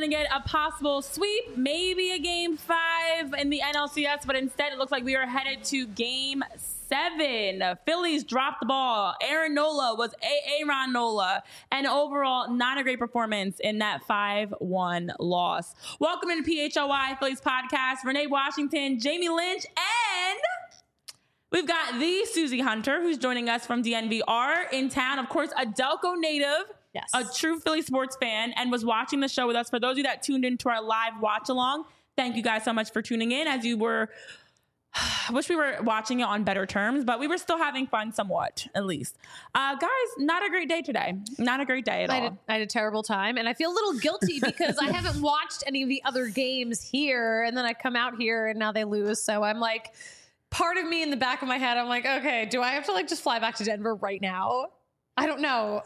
going to get a possible sweep, maybe a game 5 in the NLCS, but instead it looks like we are headed to game 7. Phillies dropped the ball. Aaron Nola was Aaron Nola, and overall not a great performance in that 5-1 loss. Welcome to the PHLY Phillies podcast. Renee Washington, Jamie Lynch, and we've got the Susie Hunter, who's joining us from DNVR in town. Of course, a Delco native. Yes. A true Philly sports fan, and was watching the show with us. For those of you that tuned into our live watch along, thank you guys so much for tuning in. As you were, I wish we were watching it on better terms, but we were still having fun somewhat, at least. Guys, not a great day today. Not a great day at all. I had a terrible time, and I feel a little guilty because I haven't watched any of the other games here, and then I come out here and now they lose. So I'm like, part of me in the back of my head, I'm like, okay, do I have to just fly back to Denver right now? I don't know.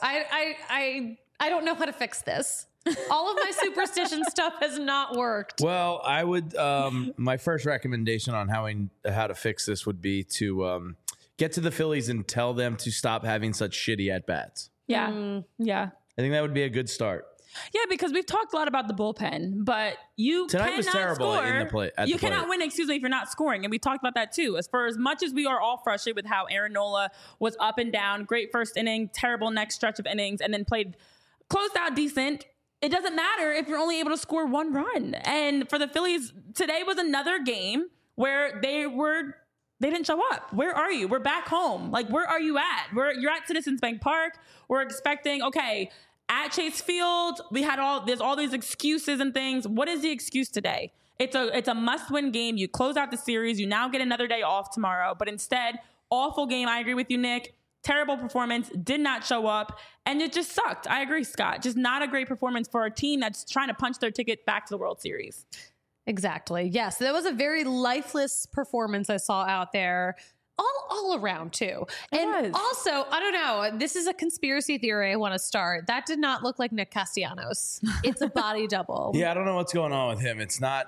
I don't know how to fix this. All of my superstition stuff has not worked. Well, I would. My first recommendation on how to fix this would be to get to the Phillies and tell them to stop having such shitty at bats. Yeah. Yeah. I think that would be a good start. Yeah, because we've talked a lot about the bullpen, but Tonight was terrible score. in the play. You cannot win, if you're not scoring. And we talked about that too. As much as we are all frustrated with how Aaron Nola was up and down, great first inning, terrible next stretch of innings, and then closed out decent. It doesn't matter if you're only able to score 1 run. And for the Phillies, today was another game where they didn't show up. Where are you? We're back home. Where are you at? You're at Citizens Bank Park. We're expecting, okay, at Chase Field, there's all these excuses and things. What is the excuse today? It's a must-win game. You close out the series. You now get another day off tomorrow. But instead, awful game. I agree with you, Nick. Terrible performance. Did not show up. And it just sucked. I agree, Scott. Just not a great performance for a team that's trying to punch their ticket back to the World Series. Exactly. Yes. That was a very lifeless performance I saw out there. All around too. And also, I don't know, this is a conspiracy theory I want to start. That did not look like Nick Castellanos. It's a body double. Yeah, I don't know what's going on with him. It's not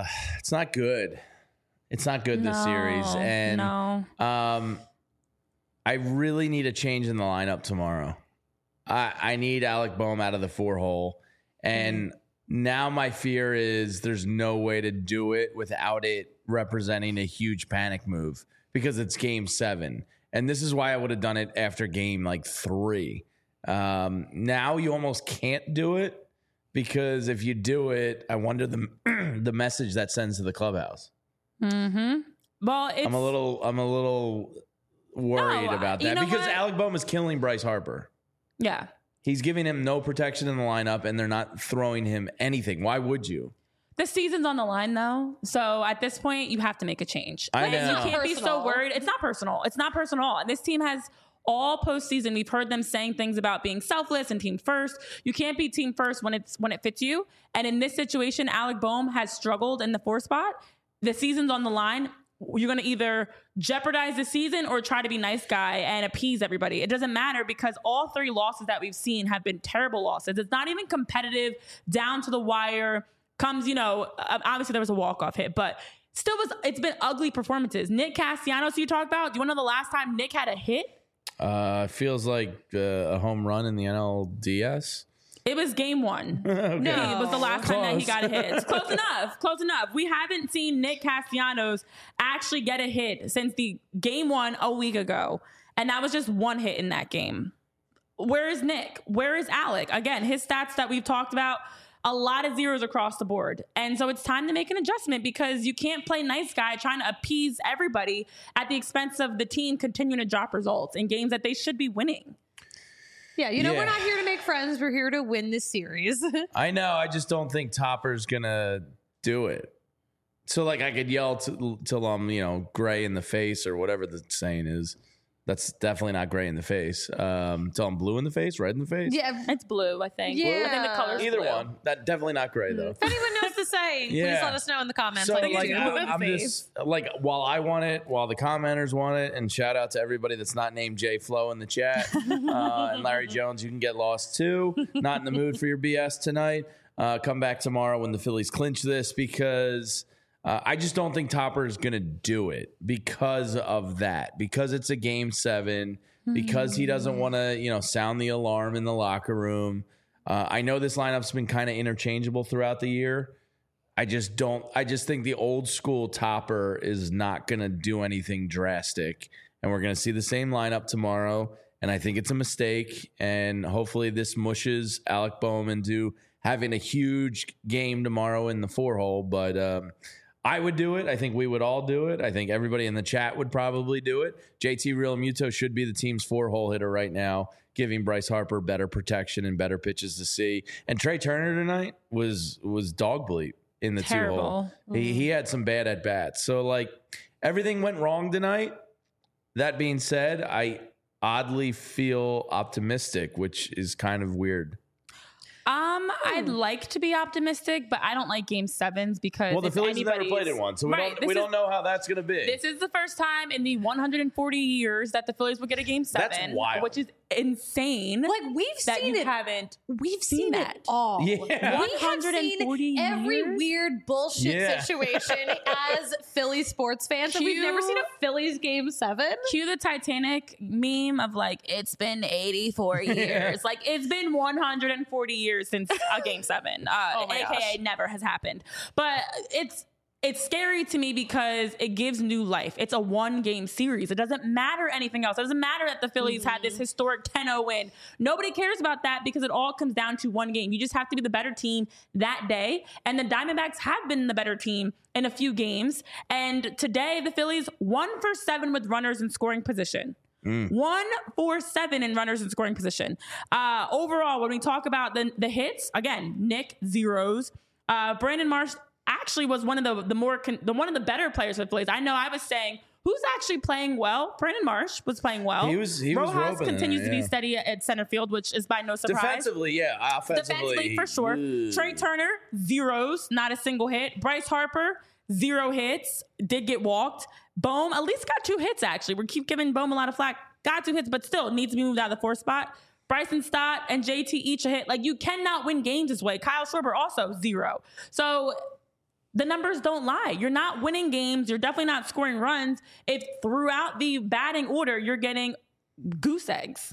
good. It's not good this series. And I really need a change in the lineup tomorrow. I need Alec Boehm out of the 4-hole. And now my fear is there's no way to do it without it representing a huge panic move. Because it's game 7. And this is why I would have done it after game 3. Now you almost can't do it because if you do it, I wonder the message that sends to the clubhouse. Mm-hmm. Well, I'm a little worried about that because Alec Boehm is killing Bryce Harper. Yeah. He's giving him no protection in the lineup and they're not throwing him anything. Why would you? The season's on the line, though. So at this point, you have to make a change. I know. You can't be so worried. It's not personal. It's not personal. And this team has all postseason. We've heard them saying things about being selfless and team first. You can't be team first when it fits you. And in this situation, Alec Boehm has struggled in the 4 spot. The season's on the line. You're going to either jeopardize the season or try to be nice guy and appease everybody. It doesn't matter because all 3 losses that we've seen have been terrible losses. It's not even competitive down to the wire. Comes, obviously there was a walk-off hit, but it's been ugly performances. Nick Castellanos, you talked about, do you want to know the last time Nick had a hit? Feels like a home run in the NLDS. It was game 1. Okay. No, it was the last time that he got a hit. It's close enough. We haven't seen Nick Castellanos actually get a hit since the game 1 a week ago. And that was just 1 hit in that game. Where is Nick? Where is Alec? Again, his stats that we've talked about, a lot of zeros across the board. And so it's time to make an adjustment because you can't play nice guy trying to appease everybody at the expense of the team continuing to drop results in games that they should be winning. Yeah, we're not here to make friends. We're here to win this series. I know. I just don't think Topper's going to do it. So, I could yell till I'm, gray in the face or whatever the saying is. That's definitely not gray in the face. Till I'm blue in the face, red in the face. Yeah, it's blue, I think. Yeah. I think the color's either blue. One. That definitely not gray though. If anyone knows the saying, please let us know in the comments. So I'm just while I want it, while the commenters want it, and shout out to everybody that's not named Jay Flo in the chat and Larry Jones. You can get lost too. Not in the mood for your BS tonight. Come back tomorrow when the Phillies clinch this because. I just don't think Topper is going to do it because of that, because it's a game 7, because he doesn't want to, sound the alarm in the locker room. I know this lineup's been kind of interchangeable throughout the year. I just think the old school Topper is not going to do anything drastic. And we're going to see the same lineup tomorrow. And I think it's a mistake. And hopefully this mushes Alec Boehm into having a huge game tomorrow in the 4-hole. But I would do it. I think we would all do it. I think everybody in the chat would probably do it. JT Realmuto should be the team's 4-hole hitter right now, giving Bryce Harper better protection and better pitches to see. And Trey Turner tonight was dog bleep in the Terrible. 2-hole. He had some bad at bats. So like everything went wrong tonight. That being said, I oddly feel optimistic, which is kind of weird. I'd like to be optimistic, but I don't like game 7s because Well, the Phillies have never played in one, so we don't know how that's going to be. This is the first time in the 140 years that the Phillies will get a game 7. That's wild. Which is insane. Like we've that seen you it. haven't We've seen seen that. it all. Yeah. We have 140 seen every years? weird bullshit Yeah. situation as Philly sports fans, and we've never seen a Phillies game 7. Cue the Titanic meme of like, it's been 84 years. Like, it's been 140 years since a game 7. Oh my AKA gosh. never has happened. But it's scary to me because it gives new life. It's a 1-game series. It doesn't matter anything else. It doesn't matter that the Phillies had this historic 10-0 win. Nobody cares about that because it all comes down to one game. You just have to be the better team that day. And the Diamondbacks have been the better team in a few games. And today, the Phillies 1 for 7 with runners in scoring position. 1 for 7 in runners in scoring position. Overall, when we talk about the hits, again, Nick zeros. Brandon Marsh actually was one of the better players for the Phillies. I know I was saying, who's actually playing well? Brandon Marsh was playing well. He was Rojas roping continues there, to be yeah. steady at center field, which is by no surprise. Defensively, yeah. Defensively, for sure. Ooh. Trey Turner, zeros, not a single hit. Bryce Harper, 0 hits, did get walked. Boehm at least got 2 hits, actually. We keep giving Boehm a lot of flack. Got 2 hits, but still needs to be moved out of the 4th spot. Bryson Stott and JT each a hit. Like, you cannot win games this way. Kyle Schwarber also 0. So the numbers don't lie. You're not winning games. You're definitely not scoring runs if throughout the batting order you're getting goose eggs.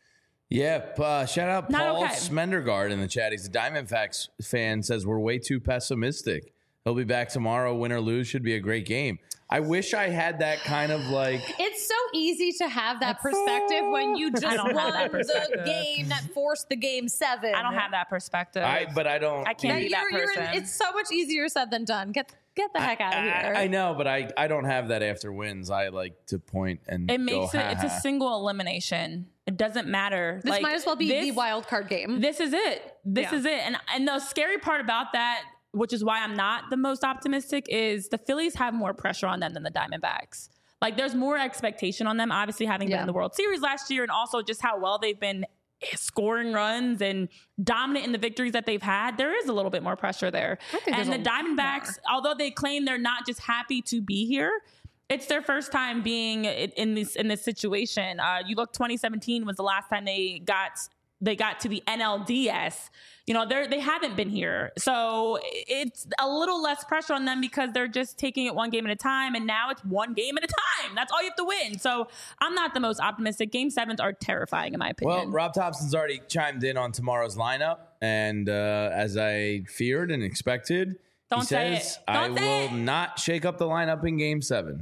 Yeah, shout out Not Paul okay. Smendergaard in the chat. He's a Diamondbacks fan, says we're way too pessimistic. He'll be back tomorrow. Win or lose, should be a great game. I wish I had that kind of like... It's so easy to have that perspective when you just don't have that won the perspective. game that forced the game 7. I don't have that perspective. But I don't... I can't be that person. It's so much easier said than done. Get the heck out of here. I know, but I don't have that after wins. I like to point and It makes go, it's a ha-ha. single elimination. It doesn't matter. This Like, might as well be this- the wild card game. This is it. This Yeah. is it. And the scary part about that, which is why I'm not the most optimistic, is the Phillies have more pressure on them than the Diamondbacks. Like, there's more expectation on them, obviously having been in the World Series last year, and also just how well they've been scoring runs and dominant in the victories that they've had. There is a little bit more pressure there. think And the there's a lot Diamondbacks, although they claim they're not just happy to be here, it's their first time being in this situation. You look, 2017 was the last time they got to the NLDS. You know, they haven't been here. So it's a little less pressure on them because they're just taking it one game at a time. And now it's one game at a time. That's all you have to win. So I'm not the most optimistic. Game 7s are terrifying in my opinion. Well, Rob Thompson's already chimed in on tomorrow's lineup. And as I feared and expected, Don't he say says, it. Don't I say will it." not shake up the lineup in Game 7.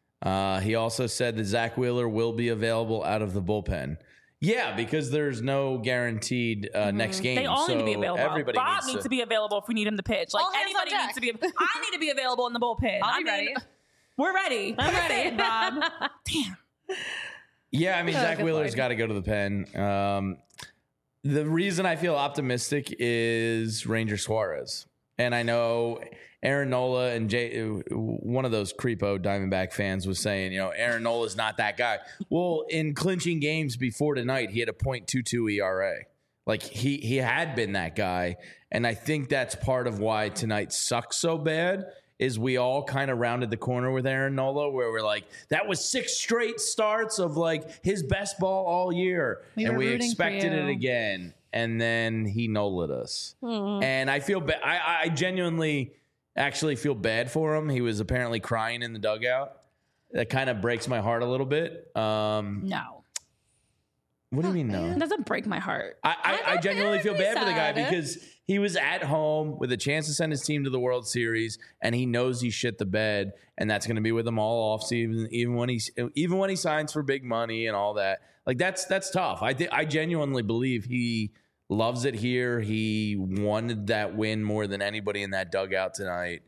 He also said that Zach Wheeler will be available out of the bullpen. Yeah, because there's no guaranteed next game. they all need to be so available. Everybody Rob needs to be available if we need him to pitch. Like, All hands on anybody deck. needs to be. I need to be available in the bullpen. I'll be ready. We're ready. I'm Put us ready. in, Rob. Damn. Yeah, I mean, Zach good Wheeler's Lord. got to go to the pen. The reason I feel optimistic is Ranger Suarez. And I know Aaron Nola and one of those creepo Diamondback fans was saying, you know, Aaron Nola's not that guy. Well, in clinching games before tonight, he had a .22 ERA. Like, he had been that guy. And I think that's part of why tonight sucks so bad, is we all kind of rounded the corner with Aaron Nola, where we're like, that was 6 straight starts of like his best ball all year. We were we rooting for expected you. it again. And then he Nola'd us. And I feel bad. I genuinely actually feel bad for him. He was apparently crying in the dugout. That kind of breaks my heart a little bit. No. What do you mean no? It doesn't break my heart. I genuinely feel bad for the guy sad. because he was at home with a chance to send his team to the World Series, and he knows he shit the bed, and that's going to be with him all offseason, even when he signs for big money and all that. Like that's tough. I genuinely believe he loves it here. He wanted that win more than anybody in that dugout tonight.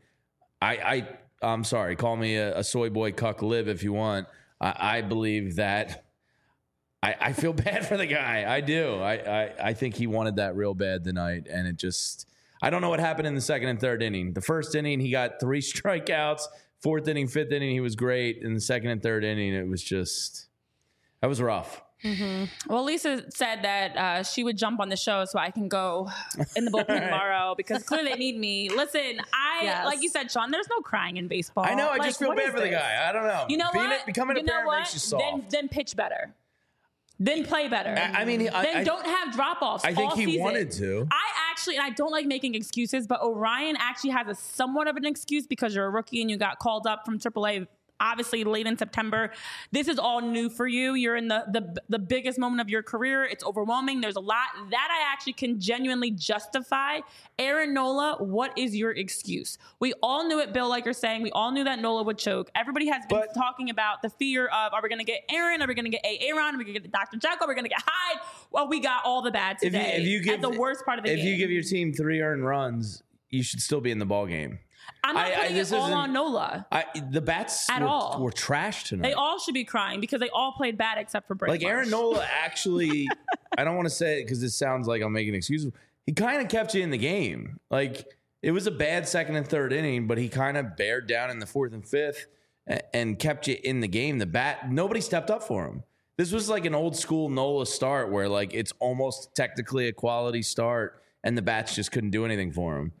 I'm sorry. Call me a soy boy cuck live if you want. I believe that. I feel bad for the guy. I do. I think he wanted that real bad tonight, and it just I don't know what happened in the second and third inning. The first inning, he got 3 strikeouts. Fourth inning, fifth inning, he was great. In the second and third inning, it was just that was rough. Mm-hmm. Well, Lisa said that she would jump on the show so I can go in the bullpen tomorrow because clearly they need me. Listen, like you said, Sean, there's no crying in baseball. I know. I like, just feel bad for the guy. I don't know. You know what? Becoming a parent makes you soft. Then pitch better. Then play better. I mean, then don't have drop-offs. I think all he season. wanted to. And I don't like making excuses, but Orion actually has a somewhat of an excuse because you're a rookie and you got called up from AAA obviously late in September. This is all new for you. You're in the biggest moment of your career. It's overwhelming. There's a lot that I actually can genuinely justify. Aaron Nola, what is your excuse? We all knew it, Bill, like you're saying. We all knew that Nola would choke. Everybody has been talking about the fear of, are we going to get Aaron? Are we going to get Aaron? Are we going to get Dr. Jekyll? Are we going to get Hyde? Well, we got all the bad today. If you give, at the worst part of the game. If you give your team 3 earned runs, you should still be in the ball game. I'm not putting it all on Nola. The bats were trash tonight. They all should be crying because they all played bad except for Brett. Like Aaron Nola actually, I don't want to say it because this sounds like I'm making excuses. He kind of kept you in the game. Like it was a bad second and third inning, but he kind of bared down in the fourth and fifth and kept you in the game. Nobody stepped up for him. This was like an old school Nola start where like it's almost technically a quality start and the bats just couldn't do anything for him.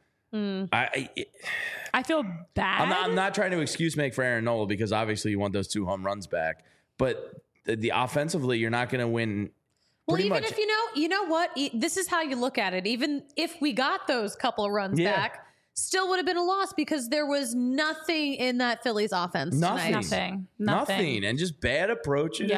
I feel bad. I'm not trying to excuse make for Aaron Nola because obviously you want those 2 home runs back, but the offensively you're not going to win. Well, even if you know what, this is how you look at it. Even if we got those couple of runs back, still would have been a loss because there was nothing in that Phillies offense tonight. Nothing, and just bad approaches.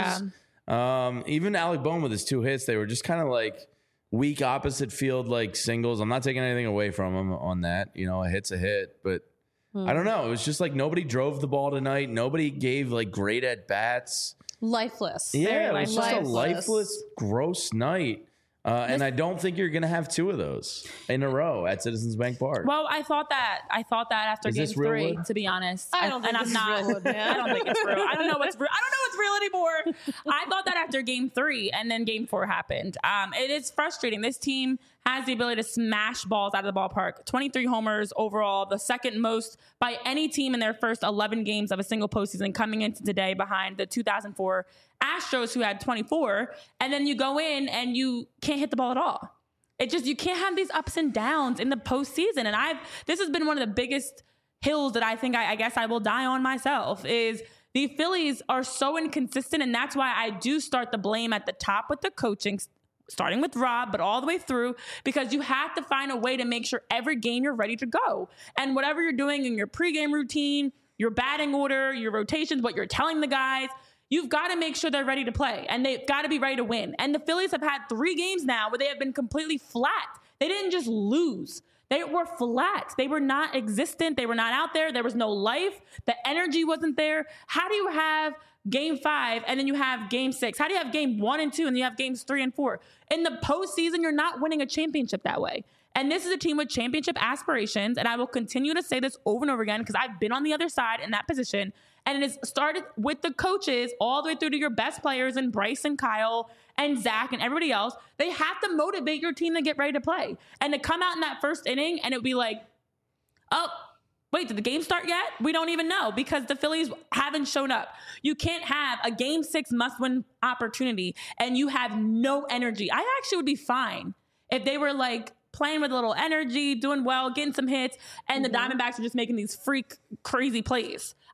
Yeah. Even Alec Bohm with his 2 hits, they were just kind of like weak opposite field like singles. I'm not taking anything away from him on that. You know, a hit's a hit, but I don't know. It was just like nobody drove the ball tonight. Nobody gave like great at bats. Lifeless. Yeah, it was just a lifeless, gross night. And I don't think you're going to have 2 of those in a row at Citizens Bank Park. Well, I thought that after game 3, to be honest. I don't think it's real, man. I don't think it's real. I don't know what's real. I don't know what's real anymore. I thought that after game 3 and then game 4 happened. It is frustrating. This team has the ability to smash balls out of the ballpark. 23 homers overall, the second most by any team in their first 11 games of a single postseason, coming into today behind the 2004 Astros, who had 24. And then you go in and you can't hit the ball at all. You can't have these ups and downs in the postseason. And this has been one of the biggest hills that I think I guess I will die on myself is the Phillies are so inconsistent. And that's why I do start the blame at the top with the coaching, starting with Rob, but all the way through, because you have to find a way to make sure every game you're ready to go. And whatever you're doing in your pregame routine, your batting order, your rotations, what you're telling the guys, you've got to make sure they're ready to play and they've got to be ready to win. And the Phillies have had 3 games now where they have been completely flat. They didn't just lose. They were flat. They were not existent. They were not out there. There was no life. The energy wasn't there. How do you have game 5 and then you have game 6? How do you have game 1 and 2 and you have games 3 and 4? In the postseason, you're not winning a championship that way. And this is a team with championship aspirations. And I will continue to say this over and over again because I've been on the other side in that position. And it has started with the coaches all the way through to your best players and Bryce and Kyle and Zach and everybody else. They have to motivate your team to get ready to play. And to come out in that first inning and it would be like, oh, wait, did the game start yet? We don't even know because the Phillies haven't shown up. You can't have a game 6 must-win opportunity and you have no energy. I actually would be fine if they were like playing with a little energy, doing well, getting some hits, and the Diamondbacks are just making these freak crazy plays. I'd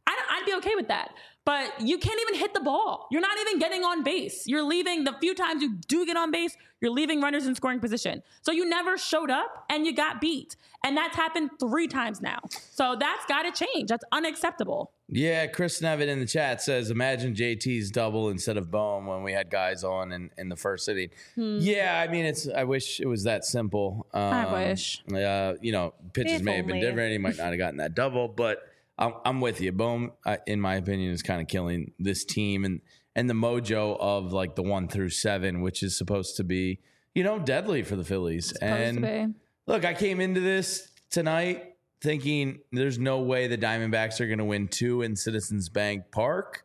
be okay with that. But you can't even hit the ball. You're not even getting on base. You're leaving the few times you do get on base, you're leaving runners in scoring position. So you never showed up and you got beat. And that's happened 3 times now. So that's got to change. That's unacceptable. Yeah, Chris Nevitt in the chat says, imagine JT's double instead of Bohm when we had guys on in the first inning. Yeah, I mean, I wish it was that simple. I wish. Pitches may have been different. He might not have gotten that double, but I'm with you. Bohm, in my opinion, is kind of killing this team and the mojo of like the 1 through 7, which is supposed to be, deadly for the Phillies. And look, I came into this tonight thinking there's no way the Diamondbacks are going to win 2 in Citizens Bank Park.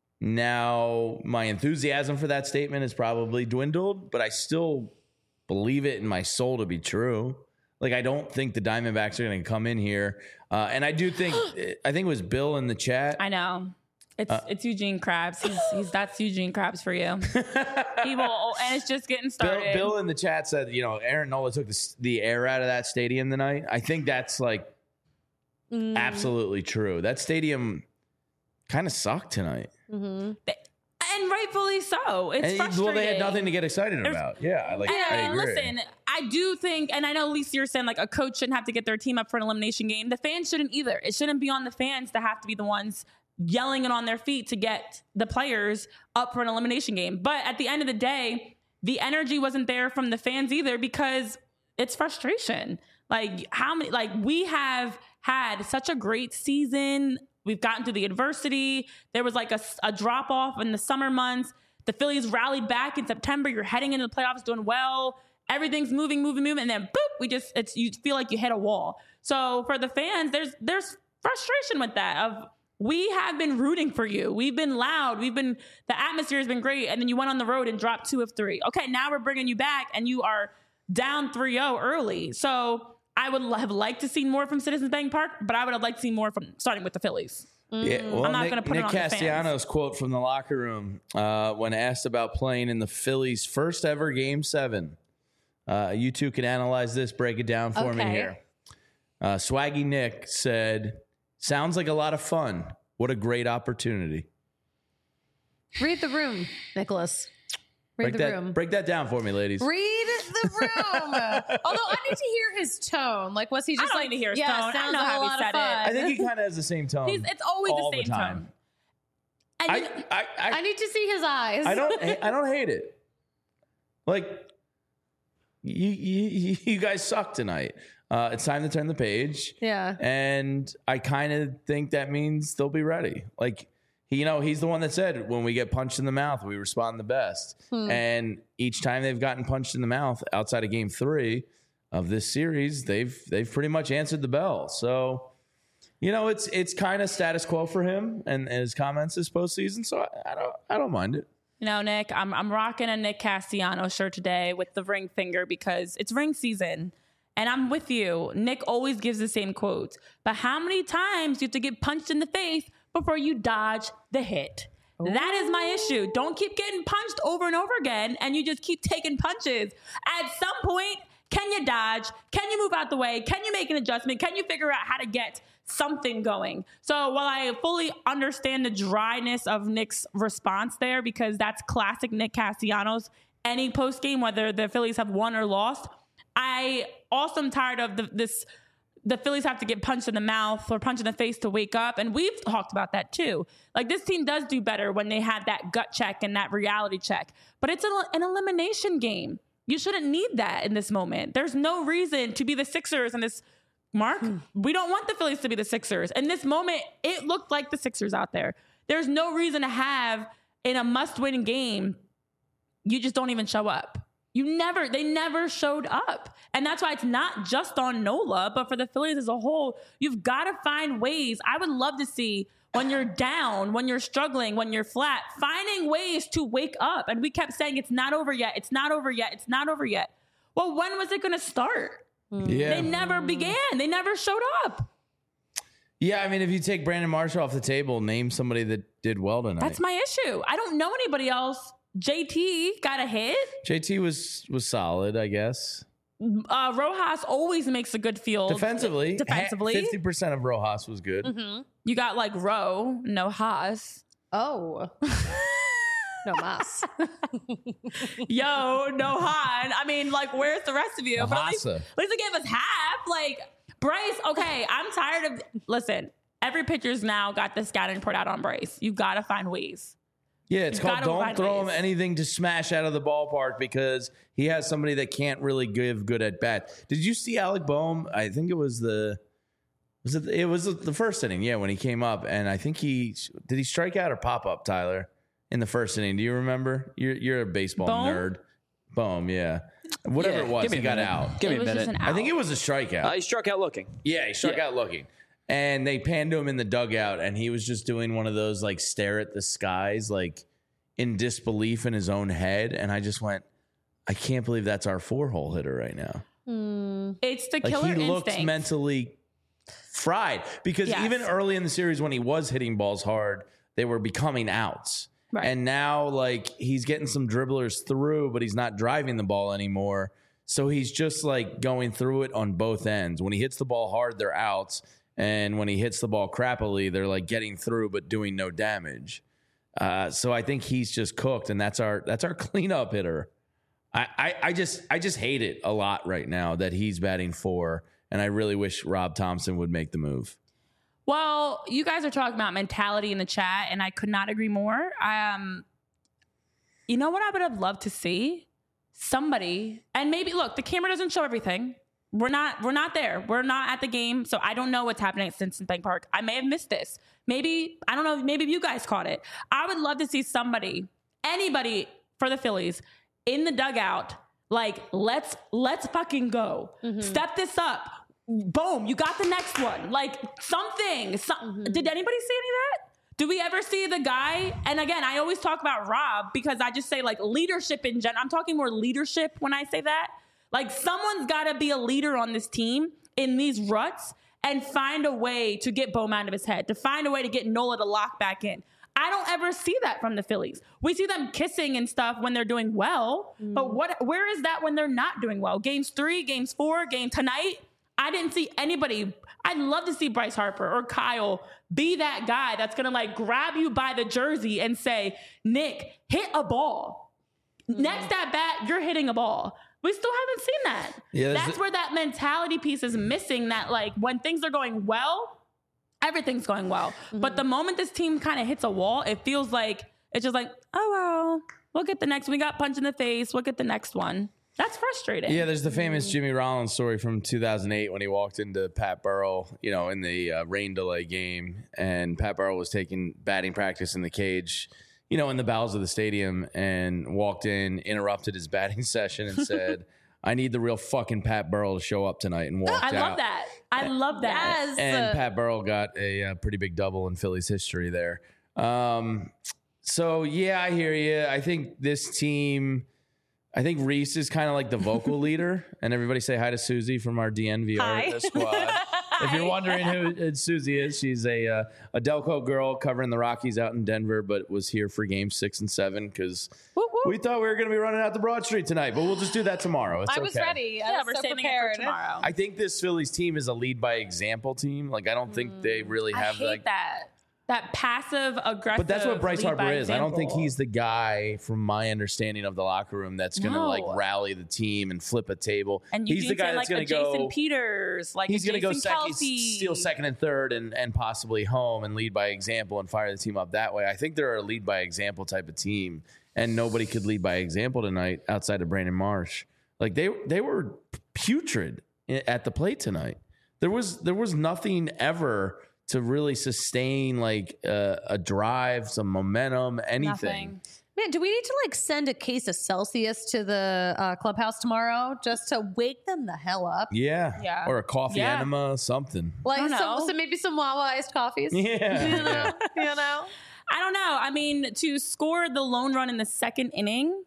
Now, my enthusiasm for that statement has probably dwindled, but I still believe it in my soul to be true. Like, I don't think the Diamondbacks are going to come in here. And I do think, I think it was Bill in the chat. I know. It's Eugene Krabs. That's Eugene Krabs for you. He will, and it's just getting started. Bill in the chat said, Aaron Nola took the air out of that stadium tonight. I think that's like absolutely true. That stadium kind of sucked tonight. Mm-hmm. And rightfully so. It's frustrating. Well, they had nothing to get excited about. Yeah, I agree. Listen, I do think, and I know, Lisa, you're saying like a coach shouldn't have to get their team up for an elimination game. The fans shouldn't either. It shouldn't be on the fans to have to be the ones yelling it on their feet to get the players up for an elimination game. But at the end of the day, the energy wasn't there from the fans either because it's frustration. We have had such a great season. We've gotten through the adversity. There was like a drop off in the summer months. The Phillies rallied back in September. You're heading into the playoffs doing well. Everything's moving. And then boop, you feel like you hit a wall. So for the fans, there's frustration with that we have been rooting for you. We've been loud. The atmosphere has been great. And then you went on the road and dropped 2 of 3. Okay, now we're bringing you back and you are down 3-0 early. So I would have liked to see more from Citizens Bank Park, but I would have liked to see more from starting with the Phillies. Yeah, well, I'm not going to put Nick it on the fans. Castellanos quote from the locker room when asked about playing in the Phillies' first ever Game 7. You two can analyze this, break it down for me here. Swaggy Nick said, "Sounds like a lot of fun. What a great opportunity." Read the room, Nicholas. Read the room. Break that down for me, ladies. Read the room. Although I need to hear his tone. Like, was he just I don't need to hear his tone. Sounds I know like how a he lot said of fun. I think he kind of has the same tone. It's always all the same time. tone. And I need to see his eyes. I don't hate it. Like, you guys suck tonight. It's time to turn the page. Yeah. And I kind of think that means they'll be ready. Like, he's the one that said, when we get punched in the mouth, we respond the best. And each time they've gotten punched in the mouth outside of Game 3 of this series, they've pretty much answered the bell. So, it's kind of status quo for him and his comments this postseason. So I don't mind it. Nick, I'm rocking a Nick Castellanos shirt today with the ring finger because it's ring season. And I'm with you. Nick always gives the same quotes. But how many times do you have to get punched in the face before you dodge the hit? Ooh. That is my issue. Don't keep getting punched over and over again and you just keep taking punches. At some point, can you dodge? Can you move out the way? Can you make an adjustment? Can you figure out how to get something going? So while I fully understand the dryness of Nick's response there, because that's classic Nick Castellanos, any post game, whether the Phillies have won or lost, I also am tired of the Phillies have to get punched in the mouth or punched in the face to wake up. And we've talked about that too. Like, this team does do better when they have that gut check and that reality check. But it's an elimination game. You shouldn't need that in this moment. There's no reason to be the Sixers in this, Mark. We don't want the Phillies to be the Sixers. In this moment, it looked like the Sixers out there. There's no reason to have, in a must-win game, you just don't even show up. They never showed up. And that's why it's not just on Nola, but for the Phillies as a whole, you've got to find ways. I would love to see when you're down, when you're struggling, when you're flat, finding ways to wake up. And we kept saying, it's not over yet. It's not over yet. It's not over yet. Well, when was it going to start? Yeah. They never began. They never showed up. Yeah, I mean, if you take Brandon Marshall off the table, name somebody that did well tonight. That's my issue. I don't know anybody else. JT got a hit. JT was solid, I guess. Rojas always makes a good field. Defensively. 50% of Rojas was good. Mm-hmm. You got like Rowe, no Haas. Oh. No mas. Yo, no Han. I mean, like, where's the rest of you? But at least they gave us half. Like, Bryce, okay, I'm tired of... Listen, every pitcher's now got the scouting report out on Bryce. You got to find ways. Yeah, it's called don't throw him anything to smash out of the ballpark because he has somebody that can't really give good at bat. Did you see Alec Boehm? I think it was the first inning, yeah, when he came up, and I think did he strike out or pop up, Tyler, in the first inning? Do you remember? You're a baseball nerd. Boehm, yeah. Whatever it was, he got out. Give me a minute. I think it was a strikeout. He struck out looking. Yeah, he struck out looking. And they panned to him in the dugout, and he was just doing one of those, like, stare at the skies, like, in disbelief in his own head. And I just went, I can't believe that's our 4-hole hitter right now. It's the killer instinct. He looks mentally fried. Because even early in the series when he was hitting balls hard, they were becoming outs. Right. And now, like, he's getting some dribblers through, but he's not driving the ball anymore. So he's just, like, going through it on both ends. When he hits the ball hard, they're outs. And when he hits the ball crappily, they're like getting through but doing no damage. So I think he's just cooked, and that's our cleanup hitter. I just hate it a lot right now that he's batting 4, and I really wish Rob Thompson would make the move. Well, you guys are talking about mentality in the chat, and I could not agree more. You know what I would have loved to see? Somebody, and maybe look, the camera doesn't show everything. We're not there. We're not at the game, so I don't know what's happening at Stinson Bank Park. I may have missed this. Maybe, I don't know, maybe you guys caught it. I would love to see anybody for the Phillies in the dugout, like, let's fucking go. Mm-hmm. Step this up. Boom, you got the next one. Like, something. Did anybody see any of that? Do we ever see the guy? And again, I always talk about Rob because I just say, like, leadership in general. I'm talking more leadership when I say that. Like, someone's got to be a leader on this team in these ruts and find a way to get Boehm out of his head, to find a way to get Nola to lock back in. I don't ever see that from the Phillies. We see them kissing and stuff when they're doing well, but where is that when they're not doing well? Games 3, games 4, game tonight, I didn't see anybody. I'd love to see Bryce Harper or Kyle be that guy that's going to, like, grab you by the jersey and say, Nick, hit a ball. Next at bat, you're hitting a ball. We still haven't seen that. Yeah, that's where that mentality piece is missing, that, like, when things are going well, everything's going well. Mm-hmm. But the moment this team kind of hits a wall, it feels like, it's just like, oh, well, we'll get the next one. We got punched in the face. We'll get the next one. That's frustrating. Yeah, there's the famous Jimmy Rollins story from 2008 when he walked into Pat Burrell, in the rain delay game. And Pat Burrell was taking batting practice in the cage, in the bowels of the stadium, and walked in, interrupted his batting session, and said, I need the real fucking Pat Burrell to show up tonight, and walked out. I love that. Yes. And Pat Burrell got a pretty big double in Phillies history there. So, yeah, I hear you. I think this team, Reese is kind of like the vocal leader, and everybody say hi to Susie from our DNVR squad. If you're wondering who Susie is, she's a Delco girl covering the Rockies out in Denver, but was here for games 6 and 7 because we thought we were going to be running out the Broad Street tonight, but we'll just do that tomorrow. It's I was ready. We're saving it for tomorrow. I think this Phillies team is a lead by example team. Like, I don't think they really have I hate that passive aggressive. But that's what Bryce Harper is. I don't think he's the guy, from my understanding of the locker room, that's going to like rally the team and flip a table. And he's the guy that's going to go Jason Peters, like he's going to go steal second and third and possibly home and lead by example and fire the team up that way. I think they're a lead by example type of team, and nobody could lead by example tonight outside of Brandon Marsh. Like they were putrid at the plate tonight. There was nothing ever to really sustain like a drive, some momentum, anything. Nothing. Man, do we need to like send a case of Celsius to the clubhouse tomorrow just to wake them the hell up? Yeah. Or a coffee enema, something. Like so maybe some Wawa iced coffees. Yeah. You know? I don't know. I mean, to score the lone run in the second inning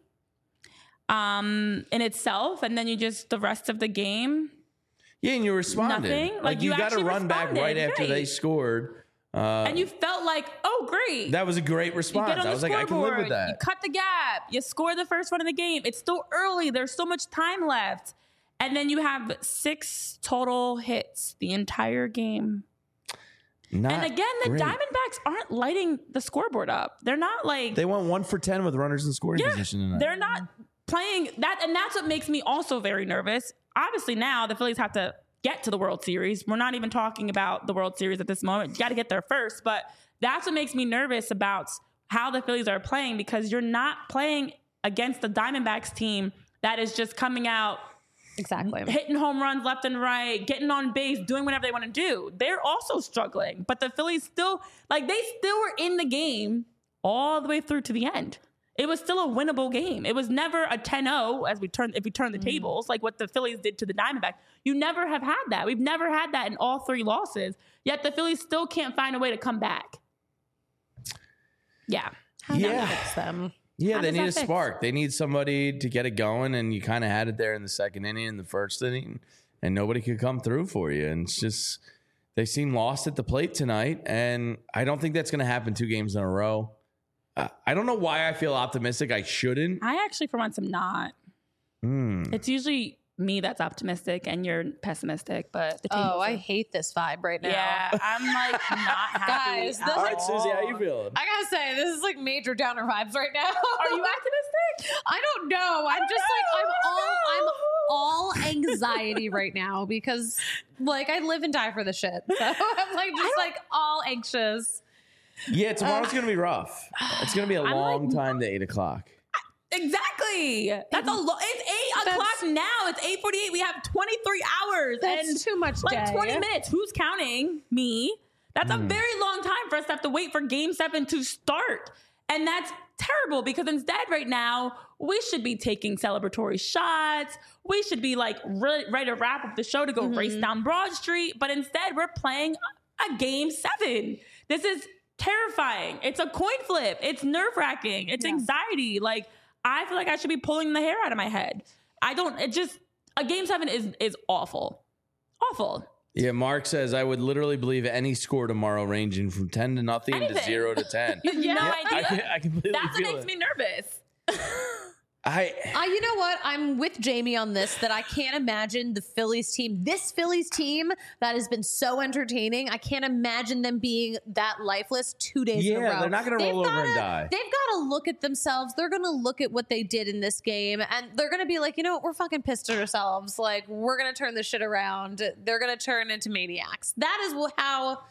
in itself, and then you just the rest of the game. Yeah, and you responded. Nothing. Like you got to run back right after they scored. And you felt like, oh, great. That was a great response. I was like, I can live with that. You cut the gap. You score the first one of the game. It's still early. There's so much time left. And then you have 6 total hits the entire game. Not And again, the great. Diamondbacks aren't lighting the scoreboard up. They're not like They went 1 for 10 with runners in scoring position tonight. they're not playing that, and that's what makes me also very nervous. Obviously, now the Phillies have to get to the World Series. We're not even talking about the World Series at this moment. You got to get there first, but that's what makes me nervous about how the Phillies are playing, because you're not playing against the Diamondbacks team that is just coming out Exactly. hitting home runs left and right, getting on base, doing whatever they want to do. They're also struggling, but the Phillies still, like, they still were in the game all the way through to the end. It was still a winnable game. It was never a 10-0 if we turn the tables, like what the Phillies did to the Diamondbacks. You never have had that. We've never had that in all 3 losses, yet the Phillies still can't find a way to come back. Yeah. How do you fix them? Yeah, How they does need that a fix? spark. They need somebody to get it going, and you kind of had it there in the second inning, in the first inning, and nobody could come through for you. And it's just, they seem lost at the plate tonight, and I don't think that's going to happen 2 games in a row. I don't know why I feel optimistic. I shouldn't. I actually, for once, am not. It's usually me that's optimistic and you're pessimistic, but the team I hate this vibe right now. yeah, I'm like not happy. Guys, at this- All right, Susie, how you all. feeling? I gotta say, this is like major downer vibes right now. Are you optimistic? I don't know. I'm just like I'm all anxiety right now because like I live and die for the shit. So I'm like just like all anxious. Yeah, tomorrow's going to be rough. It's going to be a I'm long like- time to 8 o'clock. Exactly. That's a lot. It's 8 o'clock now. It's 8:48. We have 23 hours. That's and too much like day. 20 minutes. Who's counting? Me. That's a very long time for us to have to wait for Game 7 to start. And that's terrible because instead right now, we should be taking celebratory shots. We should be like ready to wrap up the show to go race down Broad Street. But instead, we're playing a Game 7. This is terrifying. It's a coin flip. It's nerve-wracking. It's anxiety. Like, I feel like I should be pulling the hair out of my head. A Game 7 is awful. Awful. Yeah, Mark says, I would literally believe any score tomorrow ranging from 10 to nothing to Anything. 0 to 10. You have no idea. I completely That's what feel makes it. me nervous. You know what? I'm with Jamie on this, that I can't imagine this Phillies team that has been so entertaining. I can't imagine them being that lifeless 2 days in a row. they're not going to roll over and die. They've got to look at themselves. They're going to look at what they did in this game, and they're going to be like, you know what? We're fucking pissed at ourselves. Like, we're going to turn this shit around. They're going to turn into maniacs. That is how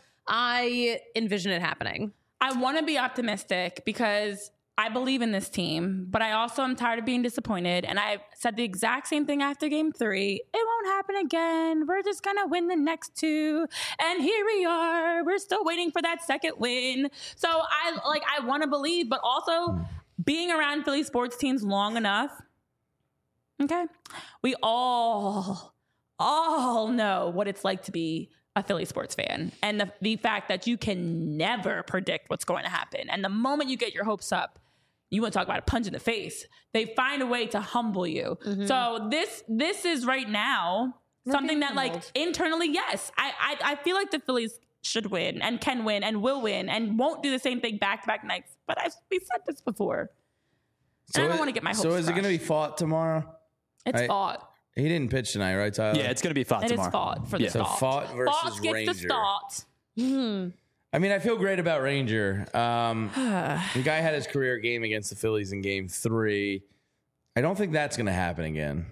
I envision it happening. I want to be optimistic because I believe in this team, but I also am tired of being disappointed. And I said the exact same thing after Game 3. It won't happen again. We're just going to win the next 2. And here we are. We're still waiting for that second win. So I want to believe, but also being around Philly sports teams long enough. Okay. We all know what it's like to be a Philly sports fan, and the fact that you can never predict what's going to happen. And the moment you get your hopes up, you want to talk about a punch in the face. They find a way to humble you. So this is right now something that like internally, yes, I feel like the Phillies should win and can win and will win and won't do the same thing back-to-back nights. But we said this before. And I don't want to get my hopes So is it crushed. going to be fought tomorrow? It's fought. He didn't pitch tonight, right, Tyler? Yeah, it's going to be fought It is tomorrow. fought for the So start. fought versus Fought gets Ranger. the start. I mean, I feel great about Ranger. The guy had his career game against the Phillies in Game 3. I don't think that's going to happen again.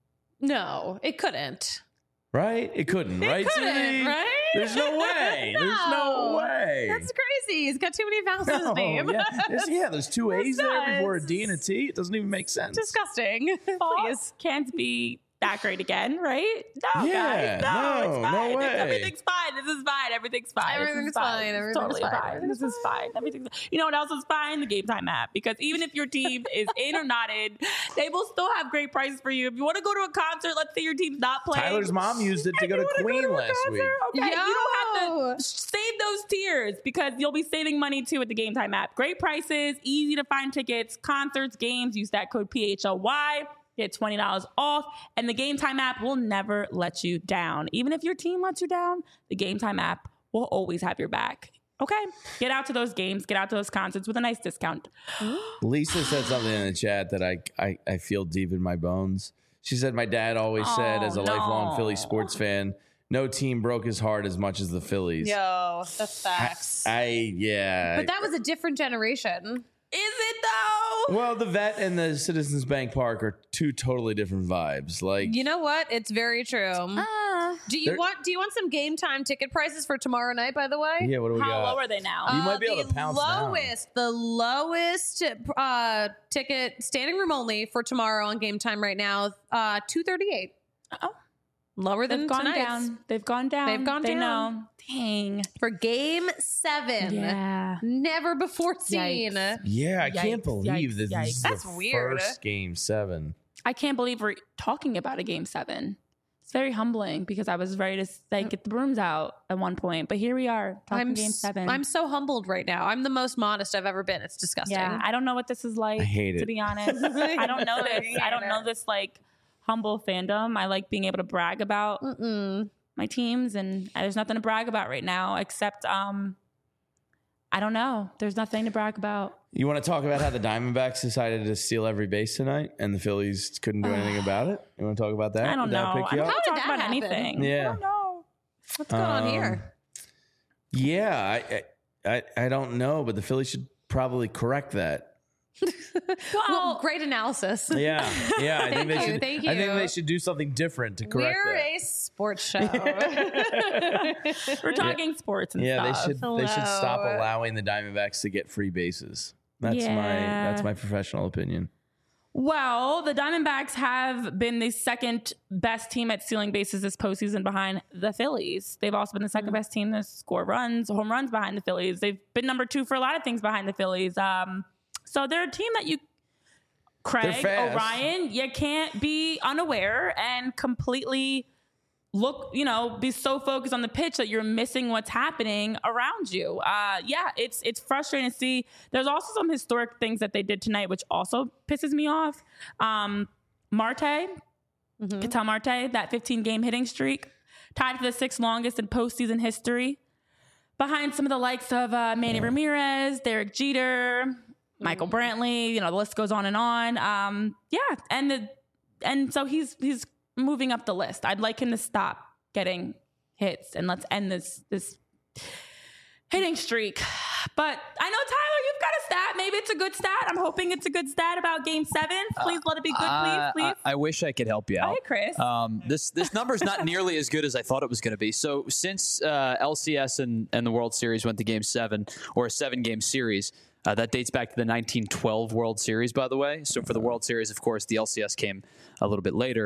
No, it couldn't. Right? It couldn't, right, couldn't, Susie? right? There's no way. There's no way. That's crazy. He's got too many vowels in his No, name. there's 2 A's there before a nuts. D and a T. It doesn't even make sense. Disgusting. Please. Fought can't be that great again, right? No, Yeah, guys. No, no, it's fine. no way. Everything's fine. This is fine. Everything's fine. Everything's This is fine. It's Everything's totally fine. fine. Everything's This is fine. Everything's. You know what else is fine? The Game Time app. Because even if your team is in or not in, they will still have great prices for you. If you want to go to a concert, let's say your team's not playing. Tyler's mom used it to go to you wanna Queen a last week. concert, Okay, you don't Yo. have to save those tiers because you'll be saving money too with the Game Time app. Great prices, easy to find tickets, concerts, games. Use that code PHLY. Get $20 off, and the Game Time app will never let you down. Even if your team lets you down, the Game Time app will always have your back. Okay? Get out to those games, get out to those concerts with a nice discount. Lisa said something in the chat that I feel deep in my bones. She said, my dad always said, as a lifelong Philly sports fan, no team broke his heart as much as the Phillies. Yo, that's facts. Yeah. But that was a different generation. Is it though? Well, the Vet and the Citizens Bank Park are two totally different vibes. Like, You know what? It's very true. Do you want some game time ticket prices for tomorrow night, by the way? yeah, what do we How got? low are they now? You might be able to pounce down. The lowest ticket, standing room only for tomorrow on game time right now, $238. Oh. Lower than They've gone tonight's. down. They've gone down. They've gone they down. Know. Dang. For game 7. Yeah. Never before seen. Yikes. Yeah, I can't Yikes, believe yikes, that this is That's the weird. first game 7. I can't believe we're talking about a game 7. It's very humbling because I was ready to get the brooms out at one point, but here we are talking game 7. I'm so humbled right now. I'm the most modest I've ever been. It's disgusting. Yeah, I don't know what this is like. I hate it. To be honest, I don't know this. I don't know this like humble fandom. I like being able to brag about my teams, and there's nothing to brag about right now except I don't know. There's nothing to brag about. You want to talk about how the Diamondbacks decided to steal every base tonight and the Phillies couldn't do anything about it? You want to talk about that? I don't Did that know. pick I you don't up? want to How talk did about that happen? anything. Yeah. I don't know. What's going on here? Yeah, I don't know, but the Phillies should probably correct that. Well, great analysis. Yeah, I think they should. Thank I think you. they should do something different to correct We're that. a sports show. We're talking sports and Yeah, stuff. they should stop Hello. allowing the Diamondbacks to get free bases. That's Yeah. my professional opinion. Well, the Diamondbacks have been the second best team at stealing bases this postseason behind the Phillies. They've also been the second best team to score home runs behind the Phillies. They've been number 2 for a lot of things behind the Phillies. So they're a team that Craig fast. O'Brien, you can't be unaware and completely be so focused on the pitch that you're missing what's happening around you. It's frustrating to see. There's also some historic things that they did tonight, which also pisses me off. Marte, Ketel Marte, that 15-game hitting streak, tied for the 6th longest in postseason history, behind some of the likes of Manny Ramirez, Derek Jeter, Michael Brantley. The list goes on and on. And so he's moving up the list. I'd like him to stop getting hits and let's end this hitting streak. But I know, Tyler, you've got a stat. Maybe it's a good stat. I'm hoping it's a good stat about game 7. Please let it be good, please. I wish I could help you out. Hey, Chris. This number is not nearly as good as I thought it was going to be. So since LCS and the World Series went to game 7, or a 7-game series, that dates back to the 1912 World Series, by the way. So for the World Series, of course, the LCS came a little bit later.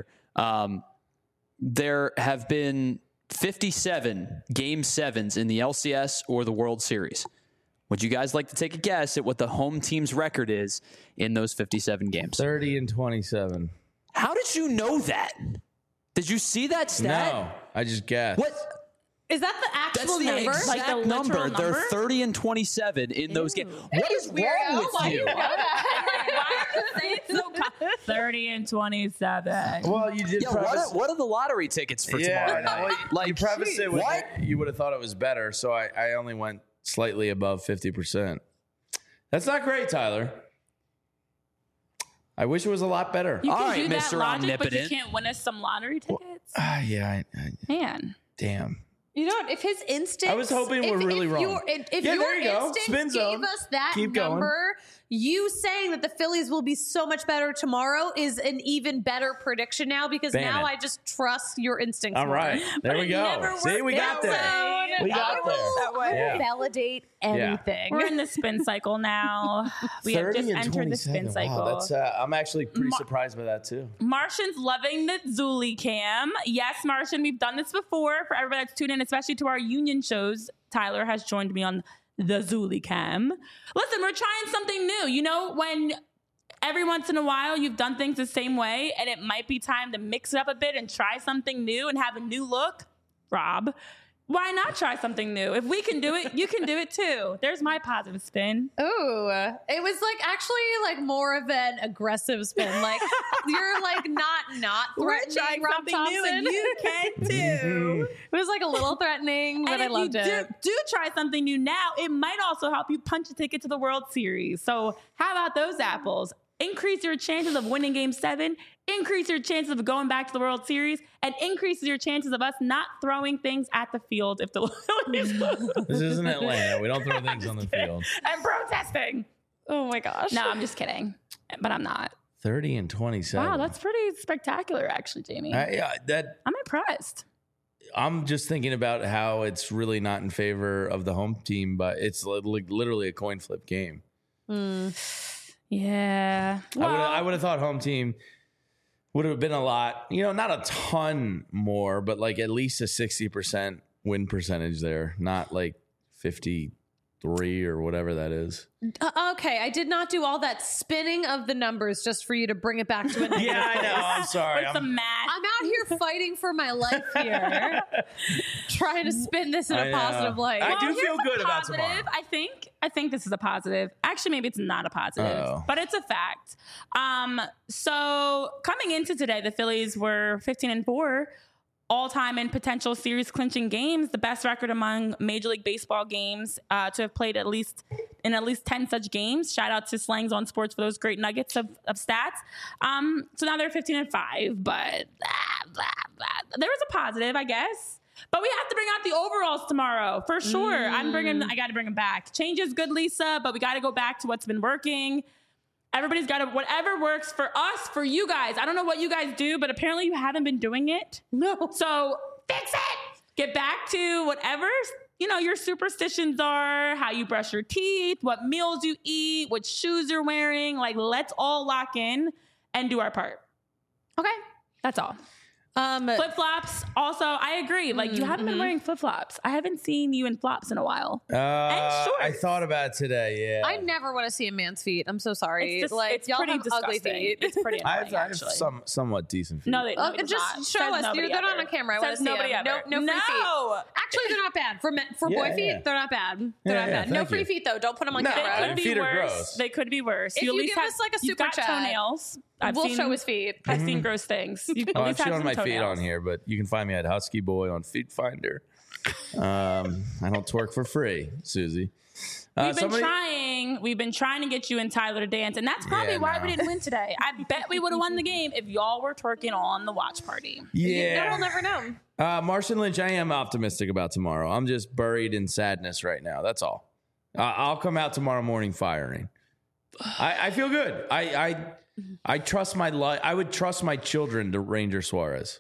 There have been 57 Game 7s in the LCS or the World Series. Would you guys like to take a guess at what the home team's record is in those 57 games? 30-27. How did you know that? Did you see that stat? No, I just guessed. What? Is that the That's actual the number? exact Like the literal number. They're number? 30-27 in those games. What is Weird. wrong with Why do you? know that? Why are you saying so 30-27. Well, you did Yeah, preface. what are the lottery tickets for tomorrow night? Well, you prefaced it with what? you would have thought it was better, so I only went slightly above 50%. That's not great, Tyler. I wish it was a lot better. You All can right, do that Mr. logic, but you Omnipotent. can't win us some lottery tickets. Yeah, Man. damn. You know what? If his instincts, I was hoping we're really wrong. If Yeah, your there you go. instincts Spin zone. gave us that Keep going. number, you saying that the Phillies will be so much better tomorrow is an even better prediction now because Ban now it. I just trust your instincts. All more. right, there But we it go. never See, we worked got out there. that way. We got I will Yeah. validate anything. We're in the spin cycle now. We have just entered the spin 27. cycle. Wow, that's. I'm actually pretty surprised by that too. Martian's loving the Zuli cam. Yes, Martian, we've done this before. For everybody that's tuned in, especially to our union shows, Tyler has joined me on the Zuli cam. Listen, we're trying something new. You know, when every once in a while you've done things the same way and it might be time to mix it up a bit and try something new and have a new look, Rob, why not try something new? If we can do it, you can do it too. There's my positive spin. Ooh, it was like more of an aggressive spin. Like you're like not threatening Rob Thompson. you can too. It was like a little threatening, but And I if loved you it. do try something new now, it might also help you punch a ticket to the World Series. So how about those apples? increase your chances of winning Game 7, increase your chances of going back to the World Series, and increases your chances of us not throwing things at the field if the Phillies lose. This isn't Atlanta. We don't throw things on the field. And protesting. Oh my gosh. No, I'm just kidding. But I'm not. 30 and 27. Wow, that's pretty spectacular, actually, Jamie. I'm impressed. I'm just thinking about how it's really not in favor of the home team, but it's literally a coin flip game. Yeah. Well, I would have thought home team would have been a lot, not a ton more, but like at least a 60% win percentage there, not like 53 or whatever that is. Okay, I did not do all that spinning of the numbers just for you to bring it back to a negative Yeah, I know. I'm sorry. with some math. I'm out here fighting for my life here, trying to spin this in I a know. positive light. I do here's feel a good about positive. tomorrow. I think this is a positive. Actually, maybe it's not a positive, Uh-oh. but it's a fact. So coming into today, the Phillies were 15-4. All-time in potential series clinching games, the best record among Major League Baseball games to have played at least 10 such games. Shout out to Slangs on Sports for those great nuggets of stats. So now they're 15-5, but blah, blah, blah. There was a positive, I guess. But we have to bring out the overalls tomorrow for sure. I got to bring them back. Change is good, Lisa, but we got to go back to what's been working. Everybody's got to, whatever works for us, for you guys. I don't know what you guys do, but apparently you haven't been doing it. No. So fix it. Get back to whatever, your superstitions are, how you brush your teeth, what meals you eat, what shoes you're wearing. Like, let's all lock in and do our part. Okay. That's all. Flip-flops. Also, I agree. Like, you haven't been wearing flip-flops. I haven't seen you in flops in a while. And shorts. I thought about it today, yeah. I never want to see a man's feet. I'm so sorry. It's y'all pretty have ugly disgusting. feet. It's pretty I annoying, have actually. somewhat decent feet. No, they Just not. show Says us. nobody They're ever. on camera. I want Says to see nobody them. ever. No free feet. Actually, they're not bad. For boy Yeah, feet, yeah. they're not bad. They're Yeah, not yeah, bad. No thank free you. feet, though. Don't put them on No, They camera. could be feet are worse. gross. They could be worse. If you at you least give have, us, like, a you've super got chat, toenails. We'll show his feet. I've seen gross things. You at I'm least have showing some my feet toenails. on here, but you can find me at Husky Boy on Feet Finder. I don't twerk for free, Susie. We've been trying to get you and Tyler to dance, and that's probably Yeah, why no. we didn't win today. I bet we would have won the game if y'all were twerking on the watch party. Yeah. We'll never know. Marshawn Lynch, I am optimistic about tomorrow. I'm just buried in sadness right now. That's all. I'll come out tomorrow morning firing. I feel good. I trust my life. I would trust my children to Ranger Suarez.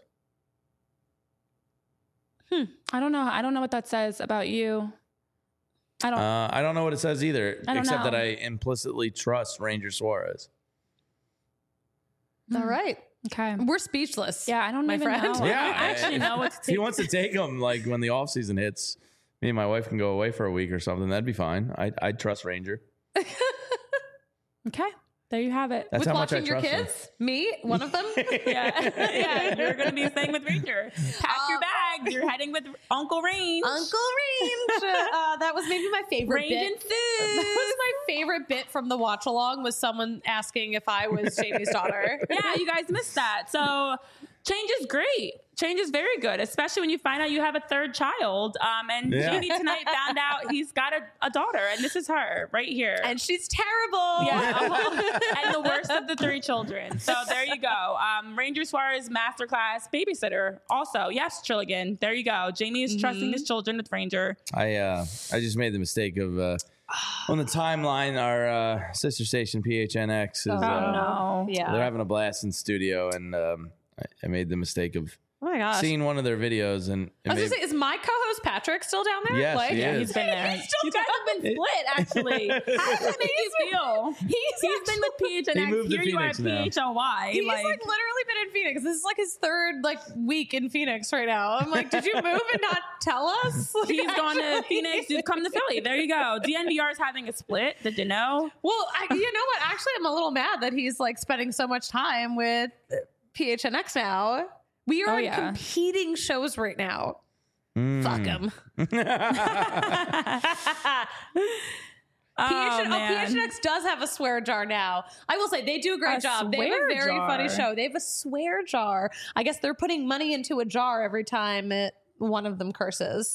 I don't know. I don't know what that says about you. I don't know what it says either, I don't except know. that I implicitly trust Ranger Suarez. All right. Okay. We're speechless. Yeah, I don't My even friend. know. Yeah, I don't actually know what to If he take. wants to take them, like when the off season hits, me and my wife can go away for a week or something. That'd be fine. I'd trust Ranger. Okay. There you have it. That's With how much I watching your trust him. kids? Me? One of them? Yeah, you're going to be staying with Ranger. Pack your bags. You're heading with Uncle Range. Uncle Range. That was maybe my favorite Range bit. and food. That was my favorite bit from the watch along was someone asking if I was Jamie's daughter. Yeah, you guys missed that. So change is great. Change is very good, especially when you find out you have a third child. And Yeah. Jamie tonight found out he's got a daughter, and this is her right here. And she's terrible. Yeah, and the worst of the three children. So there you go. Ranger Suarez masterclass babysitter. Also, yes, Trilligan. There you go. Jamie is trusting his children with Ranger. I just made the mistake of on the timeline. Our sister station PHNX is no. Yeah. they're having a blast in studio, and I made the mistake of Oh my gosh. seeing one of their videos, and I was going to say, is my co-host Patrick still down there? Yes, he is. He's been there. You guys have been split, actually. How does that make you feel? He's been with PHNX. He moved to Here you are at Phoenix now. PHLY. He's like literally been in Phoenix. This is like his third week in Phoenix right now. I'm like, did you move and not tell us? Like, he's gone to actually- Phoenix. You've come to Philly. There you go. DNVR is having a split. Did you know? Well, you know what? Actually, I'm a little mad that he's spending so much time with PHNX now. We are Oh, in yeah. competing shows right now. Mm. Fuck him. Man. PHNX does have a swear jar now. I will say they do a great A job. They have a swear very jar. funny show. They have a swear jar. I guess they're putting money into a jar every time one of them curses.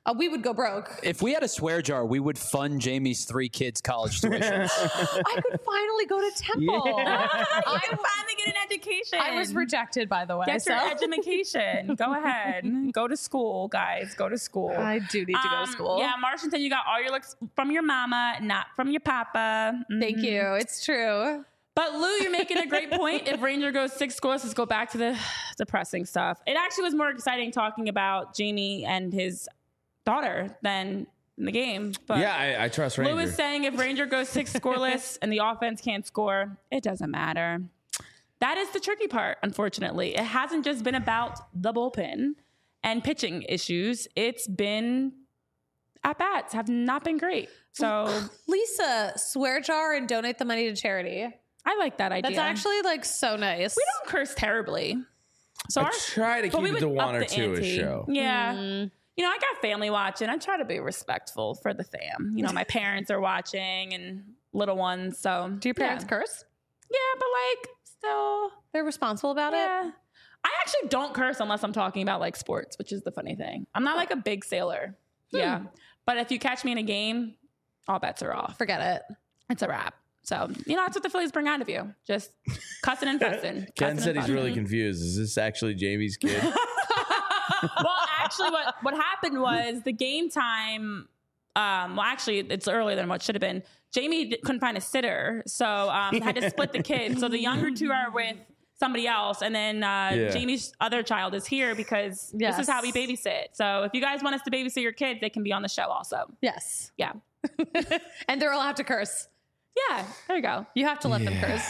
we would go broke. If we had a swear jar, we would fund Jamie's 3 kids' college tuition. I could finally go to Temple. I can finally get an education. I was rejected, by the way. Get your education. Go ahead. Go to school, guys. Go to school. I do need to go to school. Yeah, Martian said you got all your looks from your mama, not from your papa. Thank you. It's true. But Lou, you're making a great point. If Ranger goes 6 scoreless, let's go back to the depressing stuff. It actually was more exciting talking about Jamie and his daughter than in the game. But Yeah, I trust Ranger. Lou is saying if Ranger goes 6 scoreless and the offense can't score, it doesn't matter. That is the tricky part, unfortunately. It hasn't just been about the bullpen and pitching issues. It's been at-bats have not been great. So Lisa, swear jar and donate the money to charity. I like that idea. That's actually like so nice. We don't curse terribly. So I try to but we keep it would to up one or the two a ante. show. Yeah. You know, I got family watching. I try to be respectful for the fam. You know, my parents are watching and little ones. So Do your parents yeah. curse? Yeah, but like still, They're responsible about yeah. it? I actually don't curse unless I'm talking about like sports, which is the funny thing. I'm not like a big sailor. Yeah. But if you catch me in a game, all bets are off. Forget it. It's a wrap. So, you know, that's what the Phillies bring out of you. Just cussing and fussing. Ken said he's really confused. Is this actually Jamie's kid? Well, actually, what happened was the game time. Well, actually, it's earlier than what should have been. Jamie couldn't find a sitter, so had to split the kids. So the younger 2 are with somebody else, and then Jamie's other child is here because this is how we babysit. So if you guys want us to babysit your kids, they can be on the show also. Yes. Yeah. And they're allowed to curse. Yeah, there you go. You have to let them curse.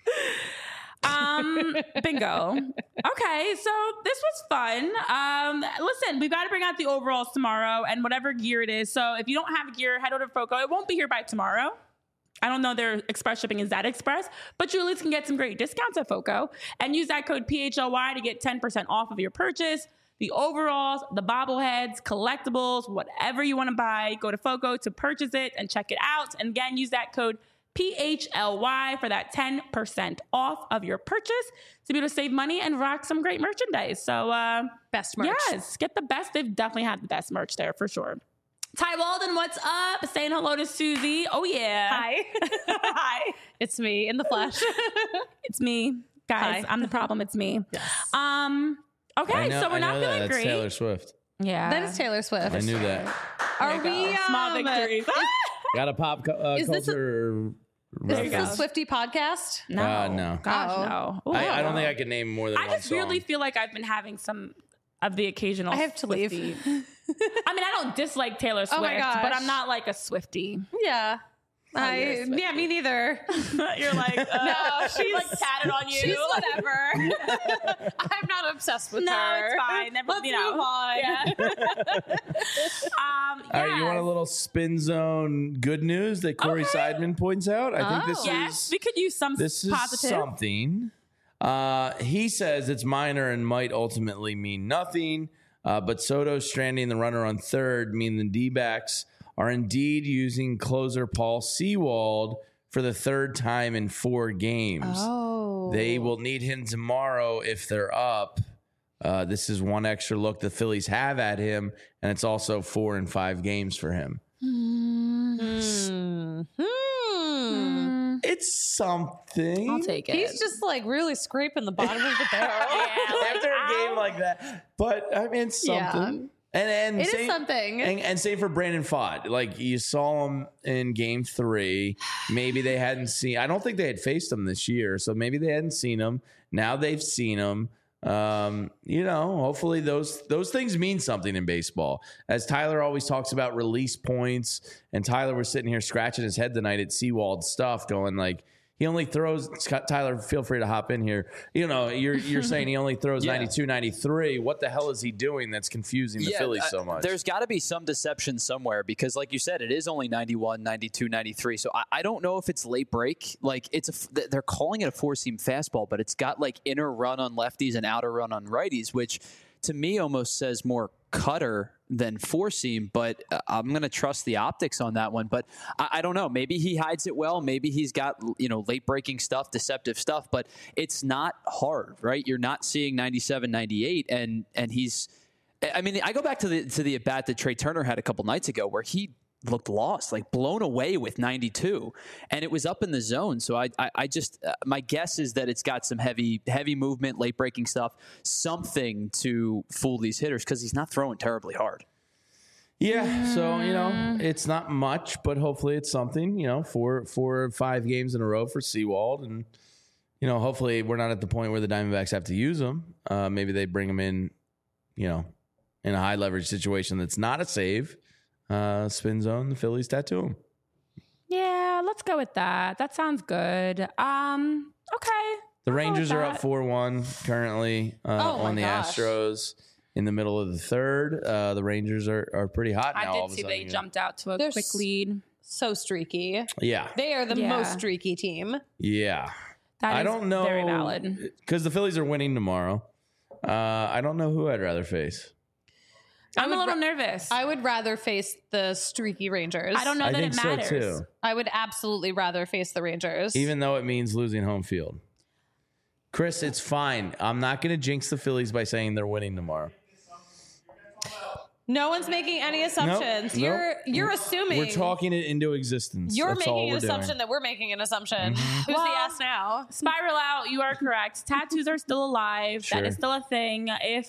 Bingo. Okay, so this was fun. Listen, we've got to bring out the overalls tomorrow and whatever gear it is. So if you don't have gear, head over to Foco. It won't be here by tomorrow. I don't know their express shipping is that express, but you at least can get some great discounts at Foco and use that code PHLY to get 10% off of your purchase. The overalls, the bobbleheads, collectibles, whatever you want to buy, go to Foco to purchase it and check it out. And again, use that code PHLY for that 10% off of your purchase to be able to save money and rock some great merchandise. So, Best merch. yes, get the best. They've definitely had the best merch there for sure. Ty Walden, what's up? Saying hello to Susie. Oh, yeah. Hi. Hi. It's me in the flesh. It's me. Guys, Hi. I'm the problem. It's me. Yes. Okay, so we're not feeling That's great. Taylor Swift. Yeah. That is Taylor Swift. I knew that. Are we Small victories. Got a pop Is this culture. Is this go. a Swifty podcast? No. No. Gosh, Uh-oh. no. Ooh, I don't think I could name more than I one just really song. feel like I've been having some of the occasional I have to leave. Swiftie. I mean, I don't dislike Taylor Swift, Oh my gosh. but I'm not like a Swiftie. Yeah. you're a Swiftie. Yeah, me neither. You're like, No, she's like tatted on you. She's whatever. I'm not obsessed with No, her. it's fine. Never, Let's you know. move on. Yeah. All right, you want a little spin zone good news that Corey Okay. Seidman points out? I think this Yes, is we could use some this is positive. something. He says it's minor and might ultimately mean nothing. But Soto stranding the runner on third mean the D-backs are indeed using closer Paul Sewald for the third time in 4 games. Oh. They will need him tomorrow if they're up. This is one extra look the Phillies have at him, and it's also 4 and 5 games for him. It's something. I'll take it. He's just like really scraping the bottom of the barrel. After a game like that. But I mean, it's Yeah. something. And It is same, something. And same for Brandon Pfaadt. Like you saw him in game 3. Maybe they hadn't seen. I don't think they had faced him this year, so maybe they hadn't seen him. Now they've seen him. Hopefully those things mean something in baseball. As Tyler always talks about release points, and Tyler was sitting here scratching his head tonight at Sewald's stuff, going like, he only throws, Tyler, feel free to hop in here. You know, you're saying he only throws 92, 93. What the hell is he doing that's confusing the Phillies so much? There's got to be some deception somewhere because, like you said, it is only 91, 92, 93. So I don't know if it's late break. Like they're calling it a 4-seam fastball, but it's got like inner run on lefties and outer run on righties, which to me almost says more cutter than 4-seam, but I'm going to trust the optics on that one. But I don't know. Maybe he hides it well. Maybe he's got, late breaking stuff, deceptive stuff, but it's not hard, right? You're not seeing 97, 98, and he's I mean, I go back to the at bat that Trey Turner had a couple nights ago where he looked lost, like blown away with 92, and it was up in the zone. So I just my guess is that it's got some heavy movement, late breaking stuff, something to fool these hitters because he's not throwing terribly hard. Yeah, so it's not much, but hopefully it's something. 4 or 5 games in a row for Sewald, and hopefully we're not at the point where the Diamondbacks have to use him. Maybe they bring him in, in a high leverage situation that's not a save. Spin zone, the Phillies tattoo him. Yeah, let's go with that. That sounds good. Okay. The Rangers are up 4-1 currently on the Astros in the middle of the third. The Rangers are pretty hot now. I did see they jumped out to a quick lead. So streaky. Yeah. They are the most streaky team. Yeah. That I is don't know. very valid. Because the Phillies are winning tomorrow. I don't know who I'd rather face. I'm a little nervous. I would rather face the streaky Rangers. I don't know that it matters. So too. I would absolutely rather face the Rangers. Even though it means losing home field. Chris, it's fine. I'm not going to jinx the Phillies by saying they're winning tomorrow. No one's making any assumptions. Nope. You're assuming. We're talking it into existence. You're That's all making an we're assumption doing. that we're making an assumption. Mm-hmm. Who's the ass now? Spiral out. You are correct. Tattoos are still alive. Sure. That is still a thing.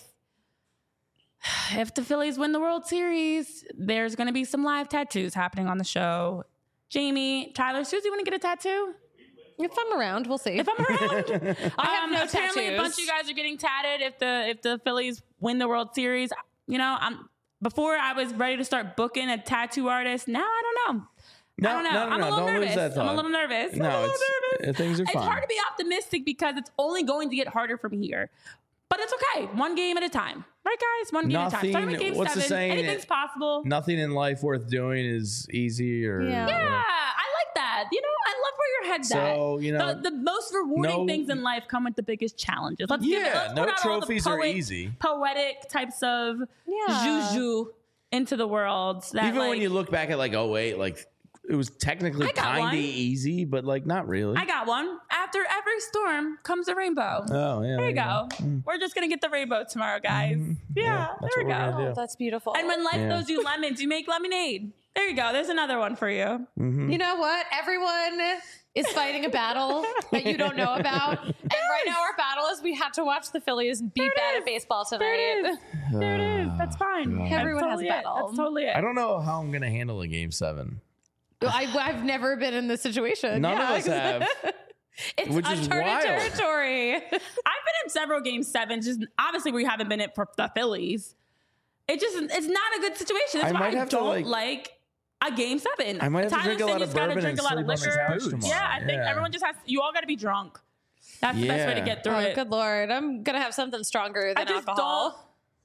If the Phillies win the World Series, there's going to be some live tattoos happening on the show. Jamie, Tyler, Susie, want to get a tattoo? If I'm around, we'll see. If I'm around, I have no apparently a bunch of tattoos. you guys are getting tatted if the Phillies win the World Series. Before I was ready to start booking a tattoo artist. Now I don't know. No, I don't know. no, I'm a little don't nervous. lose that thought. I'm a little nervous. No, things are It's fine. hard to be optimistic because it's only going to get harder from here. But it's okay. One game at a time. Right, guys? One game at a time. Starting with game What's the 7. saying? Anything's possible. Nothing in life worth doing is easy or... Yeah. Yeah, I like that. I love where your head's So, at. The most rewarding things in life come with the biggest challenges. Let's put out all the trophies are easy. Poetic types of Yeah. juju into the world. That, Even when you look back at it was technically I got kind of one. easy, but not really. I got one. After every storm comes a rainbow. Oh, yeah. There you go. We're just going to get the rainbow tomorrow, guys. Yeah, that's there we what we're go. gonna do. That's beautiful. And when life throws you lemons, you make lemonade. There you go. There's another one for you. You know what? Everyone is fighting a battle that you don't know about. And right now our battle is we have to watch the Phillies be bad at baseball tonight. There it is. There it is. That's fine. God. Everyone has a That's battle. That's totally it. I don't know how I'm going to handle a Game 7. I've never been in this situation. None of us have. It's Which is uncharted wild. territory. I've been in several game 7s. Just obviously we haven't been in for the Phillies. It's not a good situation. That's I why might I have to, don't like a game 7. I might have to Tyler drink a said lot you of just gotta bourbon drink and a lot of sleep on the liquor. couch tomorrow. Yeah, I think everyone just has. You all got to be drunk. That's the best way to get through Oh, it. good Lord. I'm going to have something stronger than I just alcohol.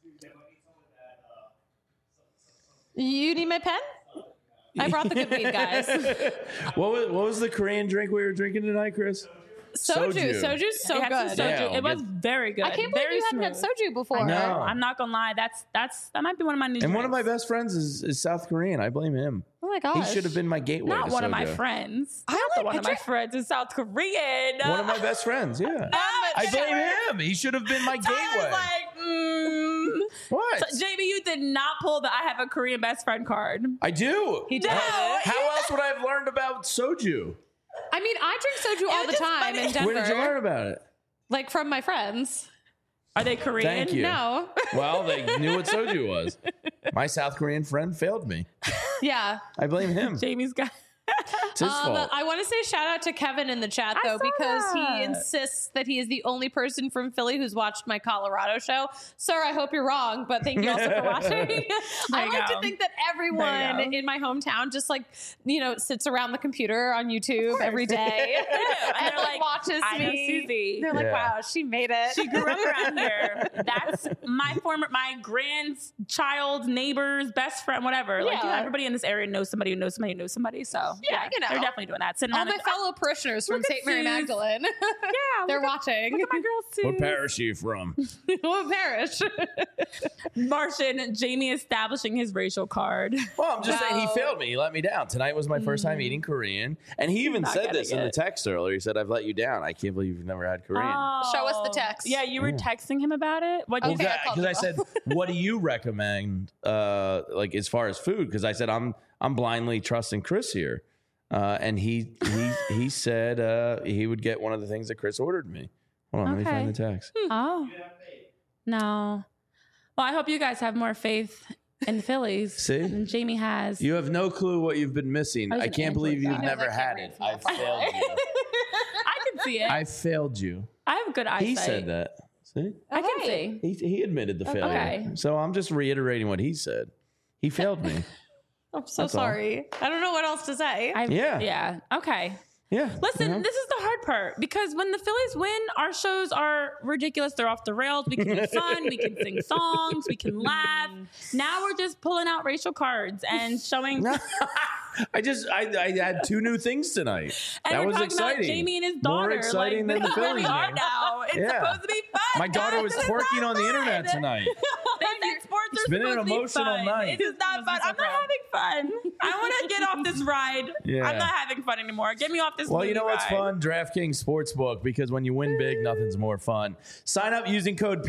You need my pen? I brought the good weed, guys. What was the Korean drink we were drinking tonight, Chris? Soju. Soju's so They had some good. soju. Yeah, it was very good. I can't believe very you haven't had smooth. soju before. I know. I'm not gonna lie. That might be one of my new. And one of my drinks. best friends is South Korean. I blame him. Oh my gosh. He should have been my gateway. Not to one of my soju. friends. I Not like- one I of my drink- friends is South Korean. One of my best friends, yeah. I blame him. He should have been my Tyler's gateway. like, What? So, JB, you did not pull the I have a Korean best friend card. I do. He did. How else would I have learned about soju? I mean, I drink soju all the just time funny. in Denver. Where did you learn about it? Like from my friends. Are they Korean? Thank you. No. Well, they knew what soju was. My South Korean friend failed me. Yeah. I blame him. Jamie's got. It's his fault. I want to say shout out to Kevin in the chat I though, saw because that. he insists that he is the only person from Philly who's watched my Colorado show. Sir, I hope you're wrong, but thank you also for watching. I you like go. to think that everyone There you go. in my hometown just sits around the computer on YouTube every day And they're like, watches I know me. Susie. They're like, Yeah. wow, she made it. She grew up around here. That's my grandchild's neighbor's best friend, whatever. Like, Yeah. everybody in this area knows somebody who knows somebody who knows somebody. So Yeah, you know. they're definitely doing that. Sitting All on my fellow parishioners from look at St. Mary Suze. Magdalene. yeah, They're look at- watching. Look at my girl Sue. What parish are you from? What parish? Martian, Jamie establishing his racial card. Well, I'm just saying he Wow. failed me. He let me down. Tonight was my first time eating Korean. And he even Not said getting this in the it. text earlier. He said, I've let you down. I can't believe you've never had Korean. Show us the text. Yeah, you were texting him about it. What Okay, I called Because I you said, what do you recommend, like as far as food? Because I said I'm blindly trusting Chris here, and he said he would get one of the things that Chris ordered me. Hold on, let me Okay. find the text. Oh. No. Well, I hope you guys have more faith in the Phillies See? than Jamie has. You have no clue what you've been missing. I was I an can't believe Android you've guy. never Knows I had can't it. read I from that failed you. I can see it. I failed you. I have good eyesight. He said that. See? I can Right. see. He admitted the failure. Okay. So I'm just reiterating what he said. He failed me. I'm so That's all. sorry. I don't know what else to say. Yeah. Yeah. Okay. Yeah. Listen, you know? this is the hard part because when the Phillies win, our shows are ridiculous. They're off the rails. We can have fun. We can sing songs. We can laugh. Now we're just pulling out racial cards and showing. I had two new things tonight. And that we're was talking exciting. about Jamie and his More daughter. exciting like, than the this is where we Phillies are game. now. It's Yeah. supposed to be fun. My daughter guys. was This is twerking not on the fun. internet tonight. They said sports It's are been an supposed to be emotional fun. night. It is not fun. I'm not having fun. I want to get off this ride. Yeah. I'm not having fun anymore. Get me off this Well, you know movie what's ride. fun? DraftKings Sportsbook, because when you win big, nothing's more fun. Sign up using code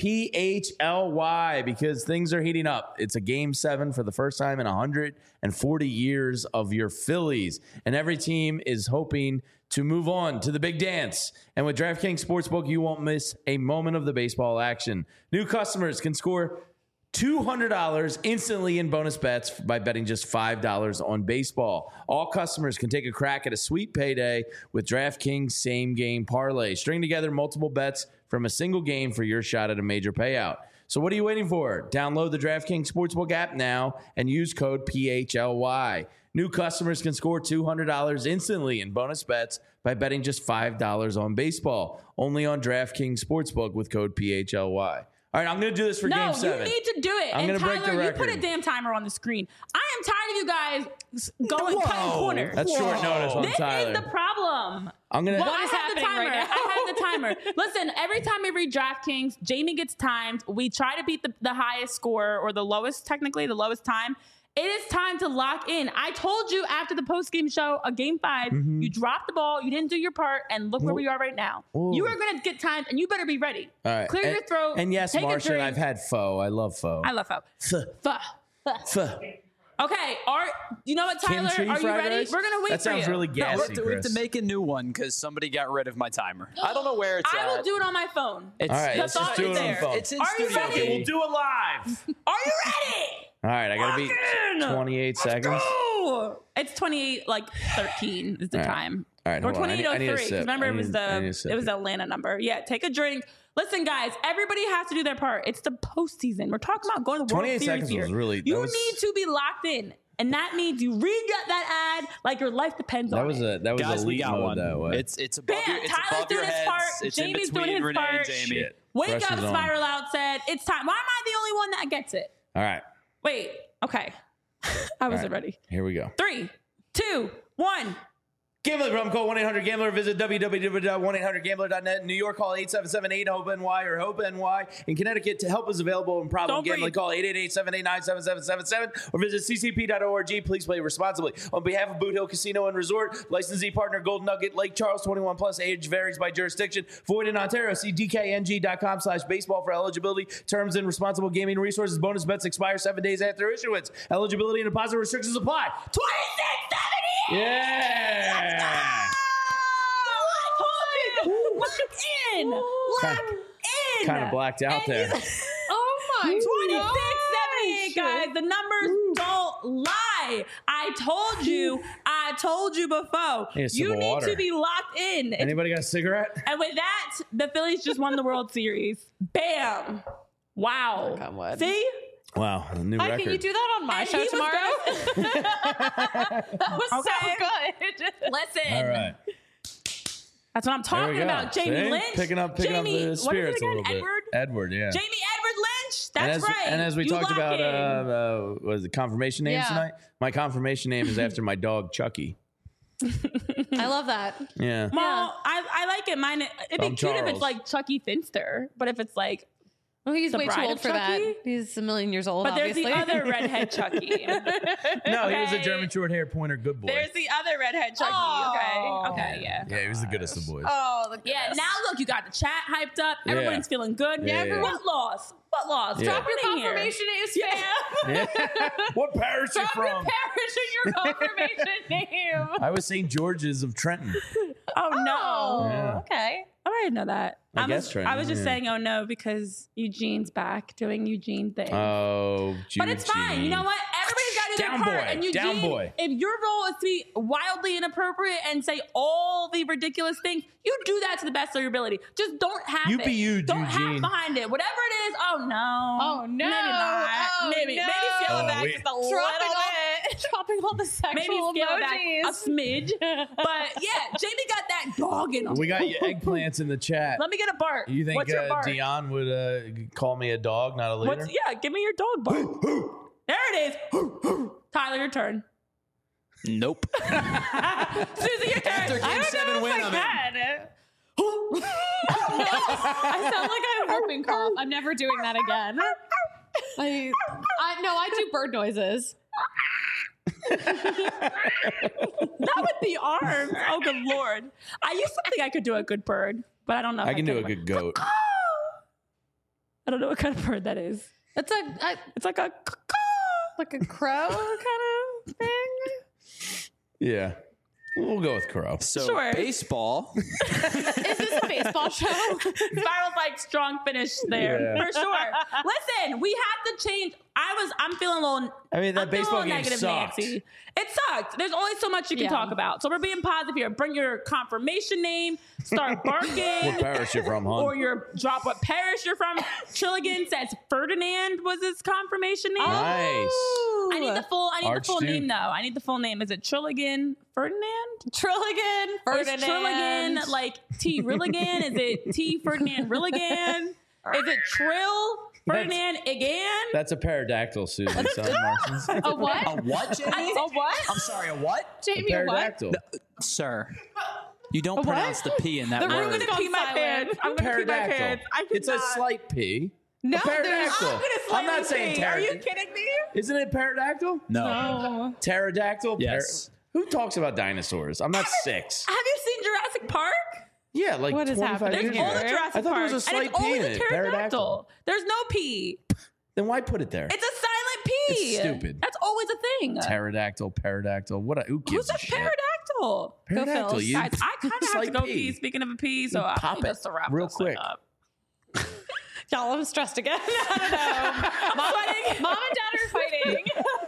PHLY because things are heating up. It's a Game 7 for the first time in 140 years of your Phillies, and every team is hoping to move on to the big dance. And with DraftKings Sportsbook, you won't miss a moment of the baseball action. New customers can score $200 instantly in bonus bets by betting just $5 on baseball. All customers can take a crack at a sweet payday with DraftKings Same Game Parlay. String together multiple bets from a single game for your shot at a major payout. So what are you waiting for? Download the DraftKings Sportsbook app now and use code PHLY. New customers can score $200 instantly in bonus bets by betting just $5 on baseball. Only on DraftKings Sportsbook with code PHLY. All right, I'm going to do this for Game 7. No, you need to do it. I'm and gonna break the Tyler, you put a record. damn timer on the screen. I am tired of you guys going cutting corners. That's short notice on This Tyler. is the problem. I'm going to... Well, I is have the happening timer. right now? I have the timer. Listen, every time we read DraftKings, Jamie gets timed. We try to beat the highest score or the lowest, technically, the lowest time. It is time to lock in. I told you after the post-game show, a Game 5, you dropped the ball, you didn't do your part, and look where we are right now. Ooh. You are going to get timed, and you better be ready. All right. Clear your throat. And yes, take a Martian, drink. I've had pho. I love pho. I love pho. Pho. Pho. Okay, you know what, Tyler? Kimchi Are you fried ready? rice? We're going to wait That for you. sounds really No, gassy, we have to Chris. make a new one because somebody got rid of my timer. I don't know where it's I at. will do it on my phone. It's, All right, The let's just thought do is it on the there. phone. It's in Are you studio. ready? Okay, we'll do it live. Are you ready? All right, I got to beat Lock in. 28 seconds. Go! It's 28, like 13 is the All right. time. All right, Or hold on. I need a 2803. sip. Remember, I it was need a sip. the Atlanta number. Yeah, take a drink. Listen, guys, everybody has to do their part. It's the postseason. We're talking about going to the World 28 Series seconds here. was really- that You was- need to be locked in. And that means you read that ad like your life depends on it. That was Guys, we elite got mode one. that way. It's above Bam, your, it's Tyler's above your doing his heads. part. It's Jamie's in doing between his Renee part. and Jamie. Shit. Wake up, Pressure's on. Spiral Out said, it's time. Why am I the only one that gets it? All right, Wait, okay. I wasn't ready. here we go. 3, 2, 1. Gambling problem, call 1-800-GAMBLER. Visit www.1800gambler.net. In New York, call 877-8-HOPE-NY or HOPE-NY. In Connecticut, help is available in problem Don't gambling. breathe. Call 888-789-7777 or visit ccp.org. Please play responsibly. On behalf of Boot Hill Casino and Resort, licensee partner Golden Nugget, Lake Charles, 21 plus, age varies by jurisdiction. Void in Ontario. See dkng.com/baseball for eligibility, terms, and responsible gaming resources. Bonus bets expire 7 days after issuance. Eligibility and deposit restrictions apply. 2670! Yeah! Lock in! Lock in! Kind of blacked out there. Oh my 2678, guys. The numbers don't lie. I told you before. Need a sip You of need water. to be locked in. Anybody got a cigarette? And with that, the Phillies just won the World Series. Bam! Wow. Knock on wood. See? Wow, a new Hi, record. can you do that on my And show he was tomorrow? That was Okay. so good. Listen. All right. That's what I'm There we talking go. about. Jamie See? Lynch. Picking up Jamie, the spirits what a is it little again? bit. Edward, yeah. Jamie Edward Lynch. and That's as, right. And as we You talked lock about, in. was the confirmation names Yeah. tonight? My confirmation name is after my dog Chucky. I love that. Yeah. Well, I like it. Mine. It'd be I'm cute if Charles. it's like Chucky Finster, but if it's like, Well, he's The way too Bride old of for that. Chucky? He's a million years old, but there's obviously. the other redhead Chucky. No, he was a Okay. German short hair pointer good boy. There's the other redhead Chucky. Oh. Okay, yeah. Yeah, he was the goodest of boys. Oh, the Yeah, goodness. now look, you got the chat hyped up. Everybody's feeling good. Yeah, yeah. What loss? What loss? Yeah. Drop Drop your it in here. confirmation names, fam. What parish you Drop your from? parish and your confirmation name. I was St. George's of Trenton. Oh no. Oh, Yeah. okay. Oh, I didn't know that. I guess I was just yeah. saying, oh no, because Eugene's back doing Eugene things. Oh, but it's fine. You know what? Everybody's got to do their Down part. boy. And Eugene, Down boy. if your role is to be wildly inappropriate and say all the ridiculous things, you do that to the best of your ability. Just don't have You it. be you, Don't Eugene. have behind it. Whatever it is. Oh no. Oh, no. Maybe not. Oh, maybe no. scale it Oh, back we- just a little bit. Dropping all the Maybe sexual scale it back a emojis. smidge. But yeah, Jamie got that dog in him. We got your eggplants in the chat. Let me get a bark. You think What's your bark? Dion would call me a dog, not a leader? Yeah, give me your dog bark. There it is. Tyler, your turn. Nope. Susie, your turn. After game 7 win, I'm in. I sound like I have a whooping cough. I'm never doing that again. I do bird noises. Not with the arms. Oh, good Lord. I used to think I could do a good bird, but I don't know if I can do a can. good goat. I don't know what kind of bird that is. It's It's like a like a crow kind of thing. Yeah. We'll go with crow. So Sure. baseball. Is this a baseball show? Spiral's like strong finish there Yeah. for sure. Listen, we have to change. I'm feeling a little. I mean, that I'm feeling baseball a little game negative, sucked. Nancy. It sucked. There's only so much you can Yeah. talk about. So we're being positive here. Bring your confirmation name. Start barking. What parish you from, hon? Or your drop what parish you're from. Trilligan says Ferdinand was his confirmation name. Nice. I need the full Archduke. name though. I need the full name. Is it Trilligan Ferdinand? Trilligan. Or is Ferdinand. Trilligan like T Rilligan? Is it T Ferdinand Rilligan? Is it Trill Ferdinand again? That's a pterodactyl, Susan. Son Martians. A what? A what, Jamie? A what? I'm sorry, a what? Jamie, a what? Pterodactyl. Sir, you don't pronounce the P in that The word. I'm room is gonna pee my silent. pants. I'm gonna pee my Pterodactyl. pants. I It's a cannot. slight P. No, A pterodactyl. I'm gonna I'm not slightly saying pee. Are you pterodactyl. kidding me? Isn't it pterodactyl? No. Pterodactyl? Yes. Who talks about dinosaurs? I'm not 6. Have you seen Jurassic Park? Yeah, like What is 25 happening years There's ago. all the Jurassic I thought there Park. was a and slight it's P always in a it. pterodactyl. There's no P. Then why put it there? It's a silent P. It's stupid. That's always a thing. Pterodactyl, pterodactyl. Who Who gives a said shit? pterodactyl? Pterodactyl. Phils. You Guys, I kind of have to slight go P. pee. Speaking of a pee, so I pop need it us to wrap real this thing quick. up. Y'all, I'm stressed again. I don't know. Mom and Dad are fighting.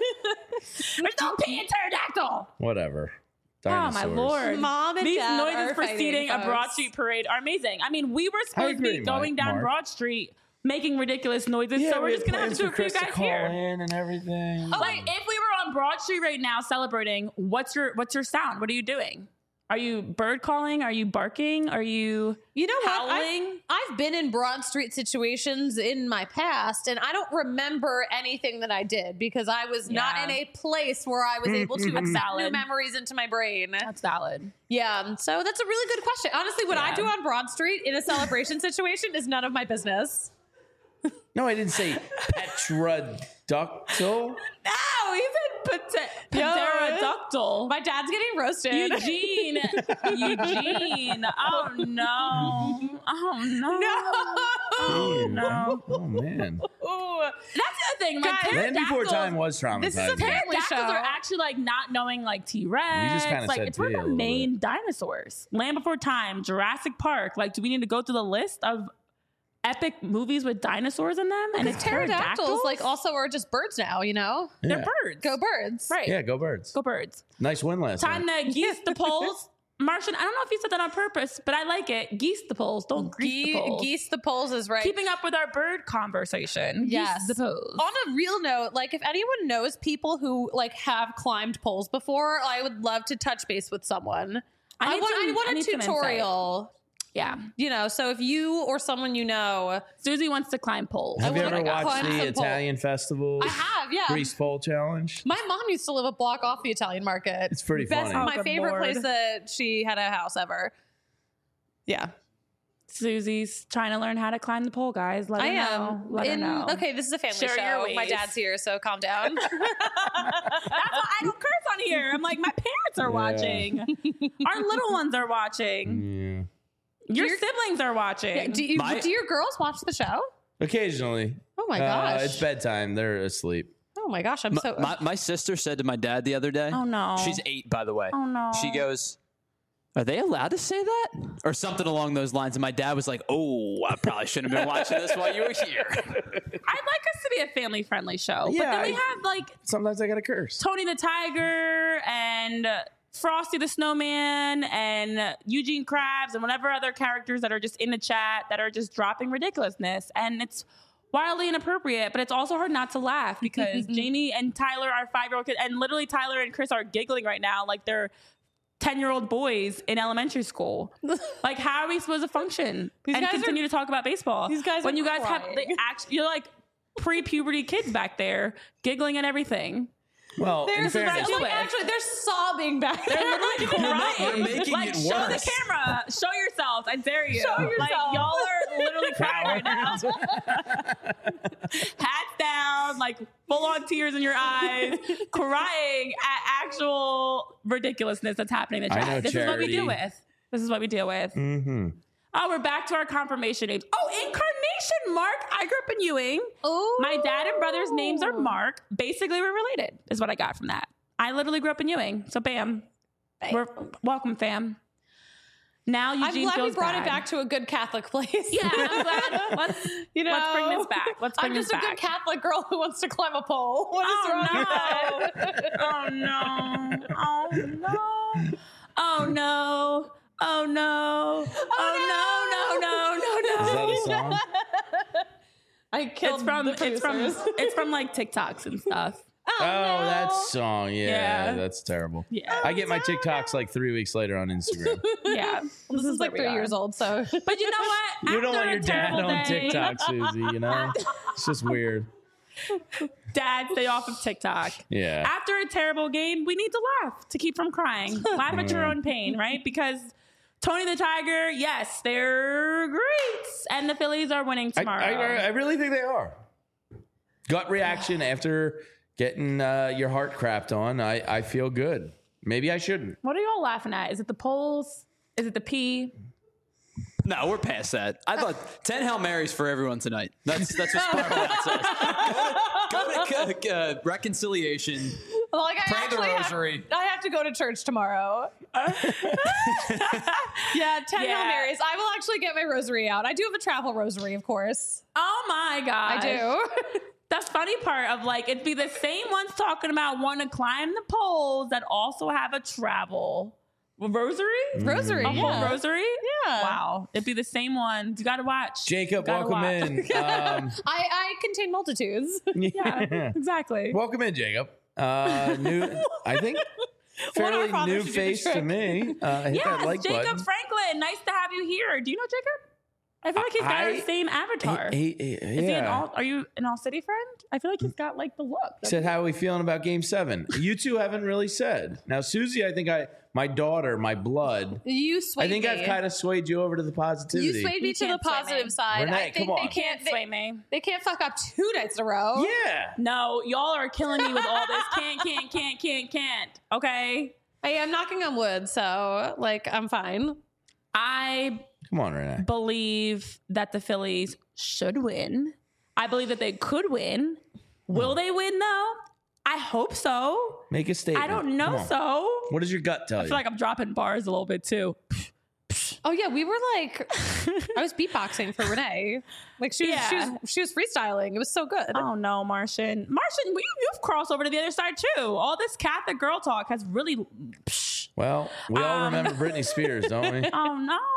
There's no P in pterodactyl. Whatever. Oh Dinosaurs. my Lord! Mom and These Dad noises are preceding fighting, a Broad folks. Street parade are amazing. I mean, we were supposed to be agree, going down Mark. Broad Street making ridiculous noises, Yeah, so we're we just had gonna have plans to do a for few Chris to guys call here. in and everything. Like, if we were on Broad Street right now celebrating, what's your sound? What are you doing? Are you bird calling? Are you barking? Are you You know what? howling? I've been in Broad Street situations in my past, and I don't remember anything that I did because I was not Yeah. in a place where I was able to accept new valid. memories into my brain. That's valid. Yeah, so that's a really good question. Honestly, what I Yeah. do on Broad Street in a celebration situation is none of my business. No, I didn't say pterodactyl. No, he said pterodactyl. My dad's getting roasted. Eugene. Oh no. Oh no. Oh no. Oh man. Ooh. That's the other thing. Like, Guys, Land Before pterodactyls- Time was traumatizing. This is a family Pterodactyls show. are actually like not knowing like T-Rex. You just kinda like said it's one T a of the little main dinosaurs. Land Before Time, Jurassic Park. Like, do we need to go through the list of epic movies with dinosaurs in them? And it's Pterodactyls like also are just birds now, you know? they're Yeah. birds. Go birds. Right. Yeah, go birds. Go birds. Nice win last Time night. to geese the poles. Martian, I don't know if you said that on purpose, but I like it. Geese the poles. Don't grease the poles. Geese the poles is right. Keeping up with our bird conversation. Yes. Geese the poles. On a real note, like if anyone knows people who like have climbed poles before, I would love to touch base with someone. I want need a some tutorial. Yeah. You know, so if you or someone you know, Susie wants to climb poles. Have you wanna ever watched climb the some pole. Italian festival? I have, yeah. Grease Pole Challenge. My mom used to live a block off the Italian market. It's pretty funny. Oh, My good favorite Lord. place that she had a house ever. Yeah. Susie's trying to learn how to climb the pole, guys. Let I her am. know. Let her know. Okay, this is a family Share your show. My ways. dad's here, so calm down. That's why I don't curse on here. I'm like, my parents are watching. Our little ones are watching. Yeah. Your siblings are watching. do your girls watch the show? Occasionally. Oh my gosh. It's bedtime. They're asleep. Oh my gosh, I'm so. My sister said to my dad the other day. Oh, no. She's 8, by the way. Oh, no. She goes, "Are they allowed to say that?" Or something along those lines. And my dad was like, "Oh, I probably shouldn't have been watching this while you were here." I'd like us to be a family-friendly show. But Yeah, then we have, like, Sometimes I got to curse. Tony the Tiger and Frosty the Snowman and Eugene Krabs and whatever other characters that are just in the chat that are just dropping ridiculousness. And it's wildly inappropriate, but it's also hard not to laugh because Jamie and Tyler are 5-year-old kids, and literally Tyler and Chris are giggling right now like they're 10-year-old boys in elementary school. Like, how are we supposed to function and guys continue to talk about baseball? These guys when are you guys have crying. you're like pre-puberty kids back there giggling at everything. Well, in This is fairness, right. like, actually, they're sobbing back there. They're literally crying. they're making like, it show the worse. camera. Show yourselves. I dare you. Show Like, yourself. y'all are literally crying right now. Hats down, like full on tears in your eyes, crying at actual ridiculousness that's happening in the I chat. know This is what we deal Charity. with. This is what we deal with. Mm-hmm. Oh, we're back to our confirmation names. Oh, incarnation, Mark. I grew up in Ewing. Oh. My dad and brother's names are Mark. Basically, we're related, is what I got from that. I literally grew up in Ewing. So, bam. We're welcome, fam. Now I'm Eugene glad we feels brought bad. it back to a good Catholic place. Yeah, I'm glad. Let's You know, let's bring this back. Let's bring I'm this just a back. good Catholic girl who wants to climb a pole. What is wrong with that? Oh no! Oh no! Oh no! Oh no! Oh no! No! No! No! Is No! that a song? I killed It's from like TikToks and stuff. Oh, that song. Yeah, Yeah. that's terrible. Yeah. I get my TikToks like 3 weeks later on Instagram. Yeah. This is like where we 3 are. years old, so But you know what? You don't After want a your dad terrible on day- TikTok, Susie, you know? It's just weird. Dad, stay off of TikTok. Yeah. After a terrible game, we need to laugh to keep from crying. Laugh at your own pain, right? Because Tony the Tiger, yes, they're great. And the Phillies are winning tomorrow. I really think they are. Gut reaction after getting your heart crapped on. I feel good. Maybe I shouldn't. What are y'all laughing at? Is it the polls? Is it the pee? No, we're past that. I thought 10 Hail Marys for everyone tonight. That's what Sparkle says. Go to reconciliation. like I Pray the actually rosary. I have to go to church tomorrow. Yeah, 10 Hail Yeah. Marys. I will actually get my rosary out. I do have a travel rosary, of course. Oh my God. I do. The funny part of like, it'd be the same ones talking about want to climb the poles that also have a travel rosary? Rosary, A whole yeah. rosary? Yeah. Wow. It'd be the same ones. You got to watch. Jacob, Gotta welcome watch. in. I contain multitudes. Yeah, exactly. Welcome in, Jacob. New, I think, fairly father new should do the face to trick. me. Hit that Yes, like Jacob button. Franklin. Nice to have you here. Do you know Jacob? I feel like he's got the same avatar. Is Is he are you an All City friend? I feel like he's got like the look. Said, how are we feeling about Game 7? You two haven't really said. Now, Susie, I think my daughter, my blood, You swayed I think me. I've kind of swayed you over to the positivity. You swayed me You to the can't sway me. positive side. Renee, I think come on. they can't Sway me. they can't fuck up 2 nights in a row. Yeah. No, y'all are killing me with all this. Can't. Okay. Hey, I'm knocking on wood, so like I'm fine. I Come on, Renee. believe that the Phillies should win. I believe that they could win. Will they win though? I hope so. Make a statement. I don't Come know on. so. What does your gut tell I you? feel like I'm dropping bars a little bit too. Oh yeah, we were like I was beatboxing for Renee. Like she was freestyling. It was so good. Oh no, Martian, you've crossed over to the other side too. All this Catholic girl talk has really. well, we all remember Britney Spears, don't we? Oh no.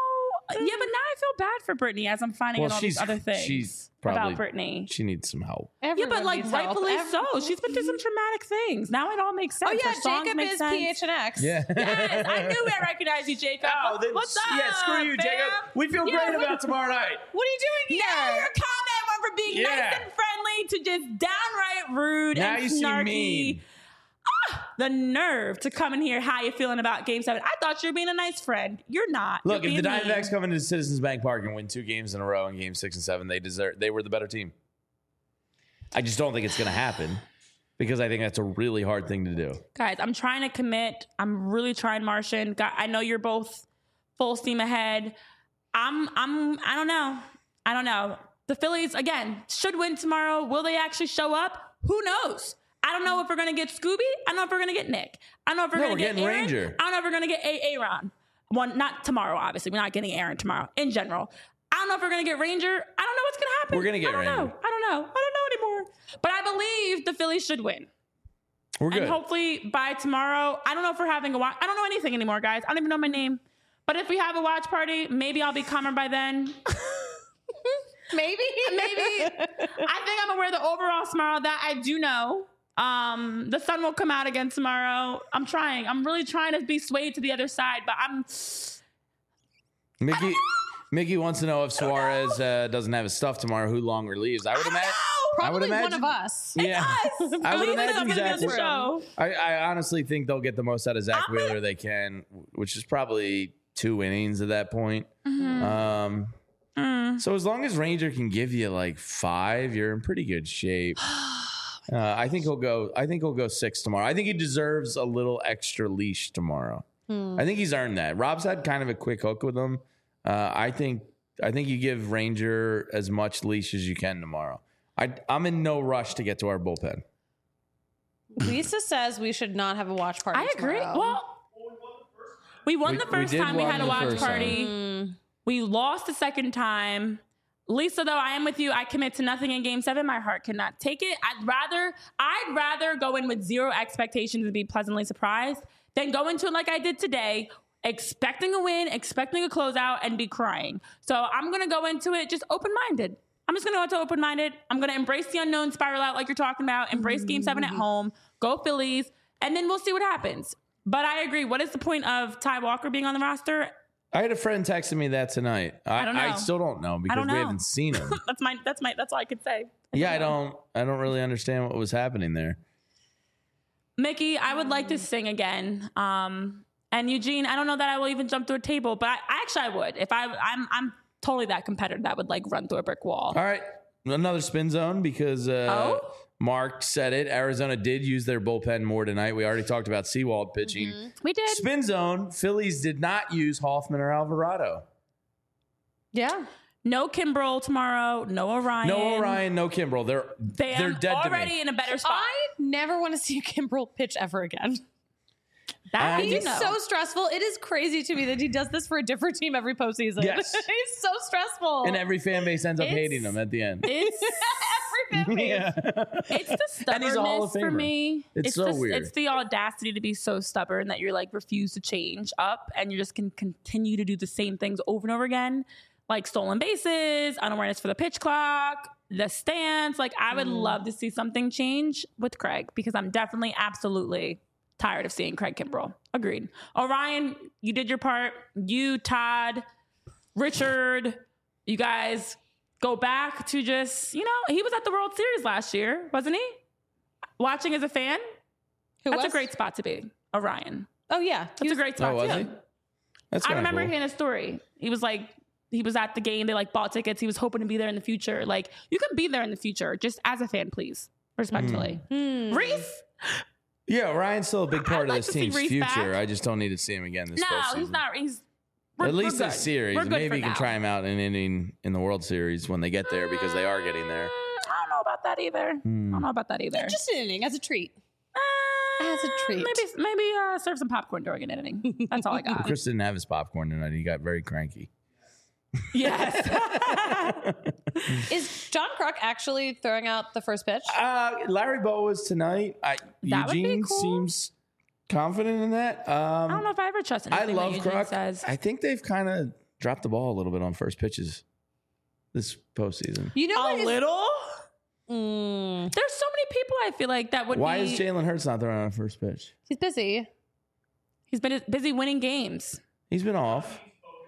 Yeah, but now I feel bad for Brittany as I'm finding out all these other things she's probably, about Brittany. She needs some help. Everyone Yeah, but like needs help. rightfully so. She's been through some traumatic things. Now it all makes sense. Oh yeah, Her songs Jacob make is sense. PHNX. Yeah. Yes, I knew I recognized you, Jacob. What's up? Yeah, screw you, fam? Jacob. We feel Yeah, great what- about tomorrow night. What are you doing here? Now your comment went from being Yeah. nice and friendly to just downright rude Now and you seem snarky. mean. The nerve to come in here. How you feeling about Game 7? I thought you were being a nice friend. You're not. Look, You're if the being Diamondbacks mean. come into Citizens Bank Park and win 2 games in a row in Game 6 and 7, they were the better team. I just don't think it's going to happen because I think that's a really hard thing to do. Guys, I'm trying to commit. I'm really trying, Martian. I know you're both full steam ahead. I don't know. The Phillies, again, should win tomorrow. Will they actually show up? Who knows? I don't know if we're going to get Scooby. I don't know if we're going to get Nick. I don't know if we're going to get getting Aaron. Ranger. I don't know if we're going to get Aaron. One, not tomorrow, obviously. We're not getting Aaron tomorrow. In general, I don't know if we're going to get Ranger. I don't know what's going to happen. We're gonna get I don't Ranger. know. I don't know anymore. But I believe the Phillies should win. We're good. And hopefully by tomorrow, I don't know if we're having a watch. I don't know anything anymore, guys. I don't even know my name. But if we have a watch party, maybe I'll be calmer by then. Maybe. Maybe. I think I'm gonna wear the overalls tomorrow. That I do know. The sun will come out again tomorrow. I'm trying. I'm really trying to be swayed to the other side, but I'm. Mickey wants to know if Suarez doesn't have his stuff tomorrow, who longer leaves. I would imagine. Probably imagine- one of us. Yeah, I would Please imagine don't get me on Zach. the Wheeler- show. I honestly think they'll get the most out of Zach Wheeler they can, which is probably 2 innings at that point. So as long as Ranger can give you like 5, you're in pretty good shape. I think he'll go. I think he'll go 6 tomorrow. I think he deserves a little extra leash tomorrow. I think he's earned that. Rob's had kind of a quick hook with him. I think you give Ranger as much leash as you can tomorrow. I'm in no rush to get to our bullpen. Lisa says we should not have a watch party. I agree. tomorrow. Well, we won the first did time we won had a the watch first party. We lost the second time. Lisa, though, I am with you. I commit to nothing in Game 7. My heart cannot take it. I'd rather go in with 0 expectations and be pleasantly surprised than go into it like I did today, expecting a win, expecting a closeout, and be crying. So I'm going to go into it just open-minded. I'm just going to go into open-minded. I'm going to embrace the unknown, spiral out like you're talking about, embrace Game 7 at home, go Phillies, and then we'll see what happens. But I agree. What is the point of Ty Walker being on the roster? I had a friend texting me that tonight. I don't know. I still don't know because don't we know. haven't seen him. That's all I could say. Yeah, I don't really understand what was happening there. Mickey, I would like to sing again. And Eugene, I don't know that I will even jump through a table, but I would. If I'm totally that competitor that would like run through a brick wall. All right, another spin zone because Mark said it. Arizona did use their bullpen more tonight. We already talked about Seawald pitching. We did. Spin zone. Phillies did not use Hoffman or Alvarado. yeah. No Kimbrel tomorrow. No Orion. No Orion, no Kimbrel. They're dead to already me. in a better spot. I never want to see Kimbrel pitch ever again. That He's you know. so stressful. It is crazy to me that he does this for a different team every postseason. Yes. He's so stressful. And every fan base ends up It's- hating him at the end. It's every fan base. Yeah. it's the And he's a Hall of stubbornness for Famer. me. It's so weird. It's the audacity to be so stubborn that you're like refuse to change up and you just can continue to do the same things over and over again. Like stolen bases, unawareness for the pitch clock, the stance. Like I would love to see something change with Craig because I'm definitely absolutely tired of seeing Craig Kimbrel. Agreed. Orion, you did your part. You, Todd, Richard, you guys go back to just, he was at the World Series last year, wasn't he? Watching as a fan. That's a great spot to be. Orion. Oh, yeah. That's a great spot Oh, was too. he? That's I kinda remember cool. hearing a story. He was at the game. They bought tickets. He was hoping to be there in the future. Like you can be there in the future just as a fan, please. Respectfully. Reese? Yeah, Ryan's still a big part I'd of like this to see team's Reese future. back. I just don't need to see him again this No, postseason. he's not. At least we're this good. series. We're good Maybe for you can now. try him out in an inning in the World Series when they get there because they are getting there. I don't know about that either. I don't know about that either. Just an inning as a treat. As a treat. Maybe serve some popcorn during an inning. That's all I got. Chris didn't have his popcorn tonight. He got very cranky. Yes. Is John Kruk actually throwing out the first pitch? Larry Bow was tonight. That would be Eugene cool. seems confident in that. I don't know if I ever trust I anything love that Eugene Kruk. says. I think they've kind of dropped the ball a little bit on first pitches this postseason. You know what? A little. Mm, There's so many people I feel like that would. Why be, is Jalen Hurts not throwing on first pitch? he's busy. He's been busy winning games. He's been off.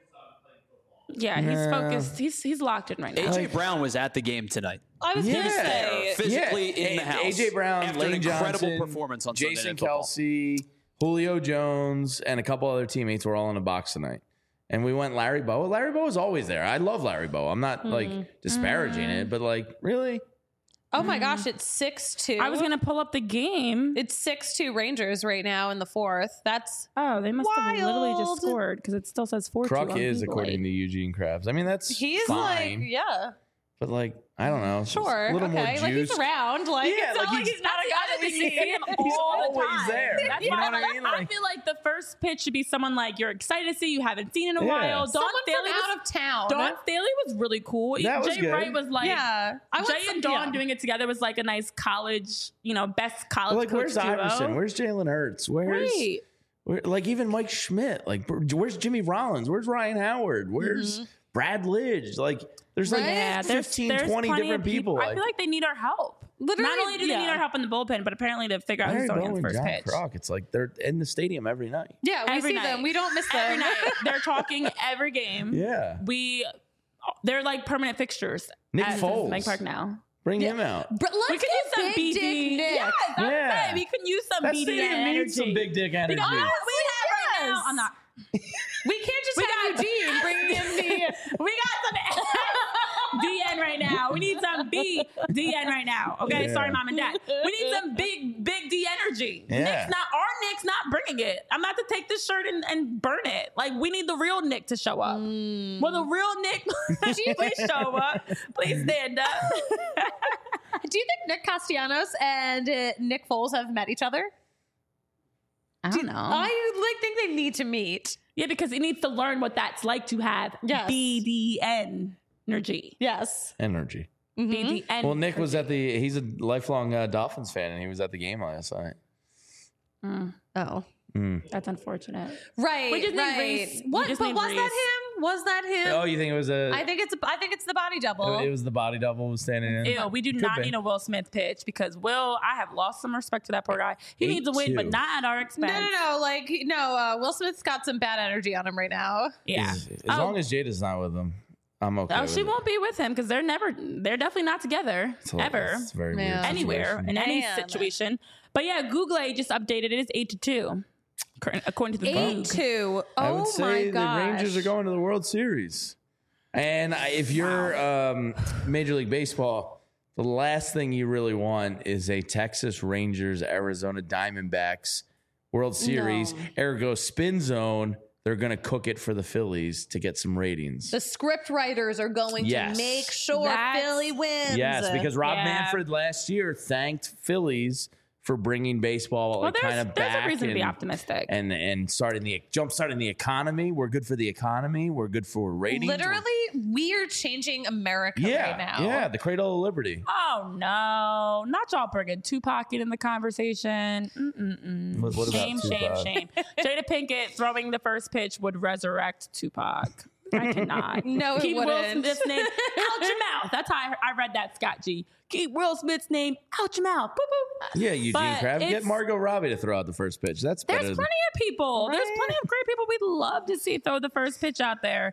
Yeah, he's focused. He's locked in right now. AJ Brown was at the game tonight. I was gonna say. Physically in the house. AJ Brown, after Lane an incredible Johnson, performance on Sunday Jason Night Football. Kelsey, Julio Jones, and a couple other teammates were all in a box tonight. And we went Larry Bowa. Larry Bowa is always there. I love Larry Bowa. I'm not like disparaging it, but like really, Oh my gosh, it's 6-2. I was gonna pull up the game. It's 6-2 Rangers right now in the fourth. That's Oh, they must have literally just Wild. scored because it still says 4-2. Kruk on is Google. according to Eugene Krabs. I mean, that's he's fine, like, yeah, but like I don't know, sure, a little okay, more juice. like he's around, like Yeah, it's like not like he's- he's not a guy that You we see see. him He's all the always time. there. That's You know why what I mean? I Like- feel like the first pitch should be someone like you're excited to see, you haven't seen in a Yeah. while. Dawn Someone Staley from was, out of town. Dawn Staley was really cool. That was Jay good. Wright was like, Yeah, I want Jay some- and Dawn yeah. doing it together was like a nice college, best college Like, coach where's duo. Iverson? Where's Jalen Hurts? Where's Right. like even Mike Schmidt? Like, where's Jimmy Rollins? Where's Ryan Howard? Where's Brad Lidge? Like, there's like Right? Yeah, 15, there's 20 plenty different of people. I feel like they need our help. Literally, Not only do they yeah. need our help in the bullpen, but apparently to figure out who's Larry throwing on Bowa the and first John pitch. Kroc, it's like they're in the stadium every night. Yeah, we Every see night. them. We don't miss them. Every night they're talking every game. Yeah. They're like permanent fixtures. Nick at Foles. Citizens Bank Park now. Bring him out. But let's We could use some get Big Dick BD. Nick. Yes, that's Yeah. right. We can use some That BD stadium energy. needs some big dick energy. Because we have right now. Yes. I'm not. We can't just We have got- Eugene bringing in the. We got some DN right now. We need some BDN right now. Okay, Yeah. sorry, mom and dad. We need some big D energy. Yeah. Nick's not bringing it. I'm about to take this shirt and burn it. Like we need the real Nick to show up. Will the real Nick please show up? Please stand up. Do you think Nick Castellanos and Nick Foles have met each other? I don't know. I think they need to meet. Yeah, because he needs to learn what that's like to have Yes. BDN energy. Yes. Energy. BDN. Well, Nick was he's a lifelong Dolphins fan, and he was at the game last night. Oh. That's unfortunate. Right. We just need right. Reese. We What? just But need was Reese. that him? Was that him? Oh, you think it was I think it's the body double. It was the body double was standing in. Ew, we do Could not be. need a Will Smith pitch because I have lost some respect for that poor guy. He needs a win, 8-2. but not at our expense. No. Like no. Will Smith's got some bad energy on him right now. Yeah. As long as Jada's not with him, I'm okay. Oh, with she it. won't be with him because they're definitely not together ever, It's a very weird Yeah. anywhere, situation. in any Man. situation. But yeah, Google just updated it. It's 8-2, according to the Goog. 8-2. I Oh would my say the gosh. Rangers are going to the World Series. And if you're Major League Baseball, the last thing you really want is a Texas Rangers, Arizona Diamondbacks World Series. Ergo spin zone. They're going to cook it for the Phillies to get some ratings. The script writers are going Yes. to make sure That's- Philly wins. Yes, because Rob Yeah. Manfred last year thanked Phillies for bringing baseball Well, kind of there's back a reason to be and- optimistic. and jumpstarting the economy. We're good for the economy. We're good for ratings. Literally, we're changing America Yeah, right now. yeah, the cradle of liberty. Oh no, not y'all bringing Tupac in the conversation. What about Shame, Tupac? shame. Jada Pinkett throwing the first pitch would resurrect Tupac. I cannot. No, it Keep Will wouldn't. Smith's name out your mouth. That's how I read that, Scott G. Keep Will Smith's name out your mouth. Boop, boop. Yeah, Eugene But Krabs. Get it's- Margot Robbie to throw out the first pitch. That's There's better. plenty of people. There's Right. plenty of great people we'd love to see throw the first pitch out there.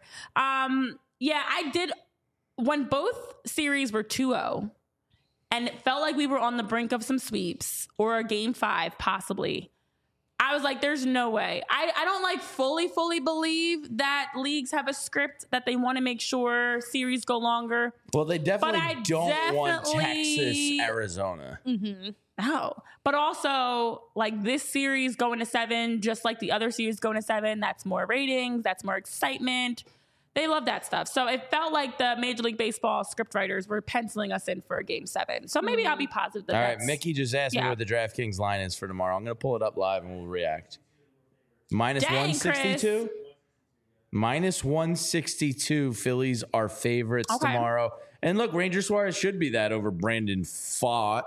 Yeah, I did. When both series were 2-0, and it felt like we were on the brink of some sweeps or a game 5, possibly. I was like, there's no way. I don't like fully believe that leagues have a script that they want to make sure series go longer. Well, they definitely I don't want definitely- Texas, Arizona. No. But also, like this series going to 7, just like the other series going to 7, that's more ratings, that's more excitement. They love that stuff. So it felt like the Major League Baseball scriptwriters were penciling us in for a game 7. So maybe I'll be positive that All right, that's- Mickey just asked me yeah. what the DraftKings line is for tomorrow. I'm going to pull it up live and we'll react. Minus Dang, 162. Minus 162. Phillies are favorites Okay. tomorrow. And look, Ranger Suarez should be that over Brandon Pfaadt.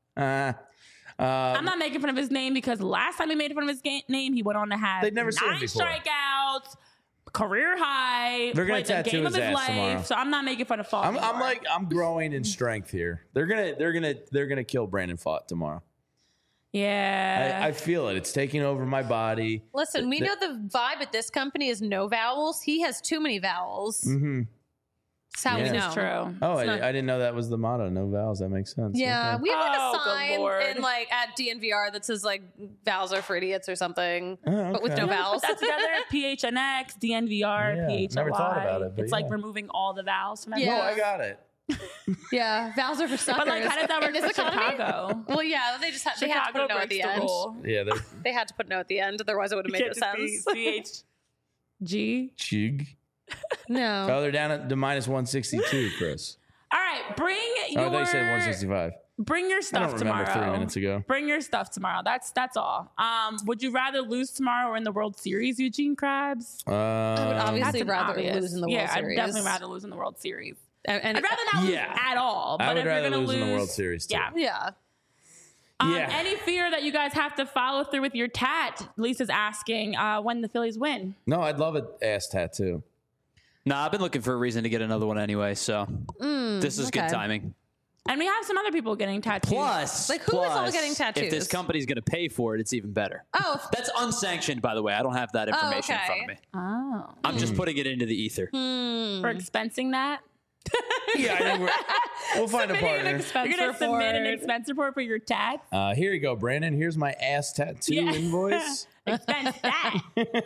I'm not making fun of his name because last time he made fun of his name, he went on to have They'd never seen him 9 before. strikeouts, career high. They're gonna played the tattoo game of his his ass life. tomorrow. So I'm not making fun of Fought. I'm growing in strength here. They're gonna kill Brandon Fought tomorrow. Yeah. I feel it. It's taking over my body. Listen, we know the vibe at this company is no vowels. He has too many vowels. Mm-hmm. That's how we Yeah. know. It's true. Oh, It's not- I didn't know that was the motto. No vowels. That makes sense. Yeah, Okay. we have like Oh, a good sign Lord. in like at DNVR that says like vowels are for idiots or something, Oh, but with okay. no Put vowels. that together. PHNX, DNVR, Yeah, PHLY. never thought about it, but It's like yeah. removing all the vowels from that. Yeah. No, I got it. Yeah, vowels are for suckers. But like, how does that work In this for economy? Chicago? Well, yeah, they just they had to put a Chicago no at breaks the the end. rule. Yeah, they're They had to put no at the end, otherwise it would have made no sense. CHG. chig. No. Oh, they're down at the minus 162, Chris. All right, bring your. Oh, they said 165. Bring your I stuff don't remember tomorrow. 3 minutes ago. Bring your stuff tomorrow. That's all. Would you rather lose tomorrow or in the World Series, Eugene Krabs? I would That's obviously an rather obvious. lose in the World Series. I'd definitely rather lose in the World Series. And I'd rather not lose Yeah. at all. But I would if you're rather gonna lose in the World Series, too. Yeah. yeah. Yeah. Any fear that you guys have to follow through with your tat? Lisa's asking when the Phillies win. No, I'd love an ass tattoo. Nah, I've been looking for a reason to get another one anyway, so this is good okay. timing. And we have some other people getting tattoos. Plus, Like, who is all getting tattoos? If this company's going to pay for it, it's even better. Oh, That's unsanctioned, by the way. I don't have that information in front of okay. me. Oh. I'm just putting it into the ether. For expensing that? Yeah, I think we'll find a partner. You're going to submit an expense report for your tats? Here you go, Brandon. Here's my ass tattoo Yeah. invoice. Expense that.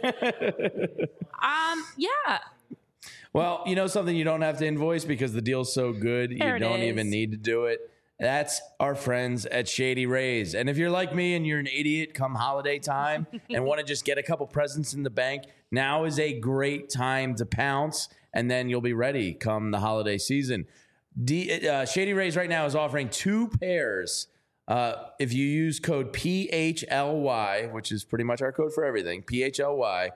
Yeah. Well, you know something you don't have to invoice because the deal's so good, There you it don't is. even need to do it. That's our friends at Shady Rays. And if you're like me and you're an idiot come holiday time and want to just get a couple presents in the bank, now is a great time to pounce, and then you'll be ready come the holiday season. Shady Rays right now is offering 2 pairs. If you use code PHLY, which is pretty much our code for everything, PHLY,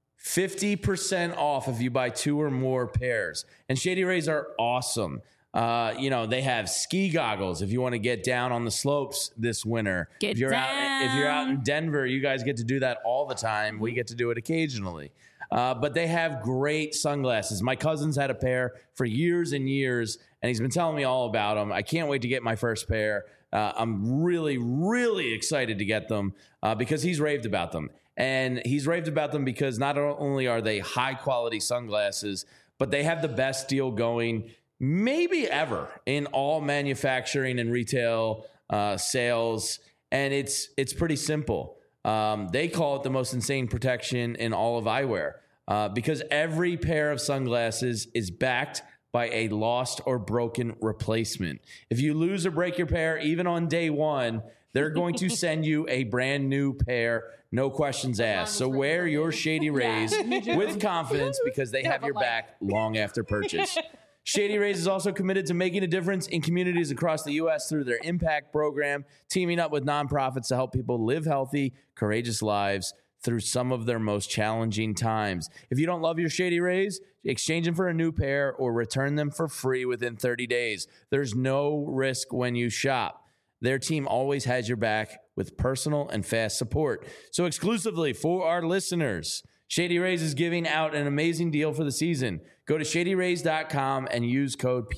50% off if you buy 2 or more pairs. And Shady Rays are awesome. They have ski goggles if you want to get down on the slopes this winter. Get if you're out in down. Denver, you guys get to do that all the time. We get to do it occasionally. But they have great sunglasses. My cousin's had a pair for years and years, and he's been telling me all about them. I can't wait to get my first pair. I'm really, really excited to get them because he's raved about them. And he's raved about them because not only are they high quality sunglasses, but they have the best deal going maybe ever in all manufacturing and retail sales. And it's pretty simple. They call it the most insane protection in all of eyewear because every pair of sunglasses is backed by a lost or broken replacement. If you lose or break your pair, even on day one, they're going to send you a brand new pair, no questions asked. So wear your Shady Rays with confidence because they have your back long after purchase. Shady Rays is also committed to making a difference in communities across the U.S. through their Impact program, teaming up with nonprofits to help people live healthy, courageous lives through some of their most challenging times. If you don't love your Shady Rays, exchange them for a new pair or return them for free within 30 days. There's no risk when you shop. Their team always has your back with personal and fast support. So exclusively for our listeners, Shady Rays is giving out an amazing deal for the season. Go to shadyrays.com and use code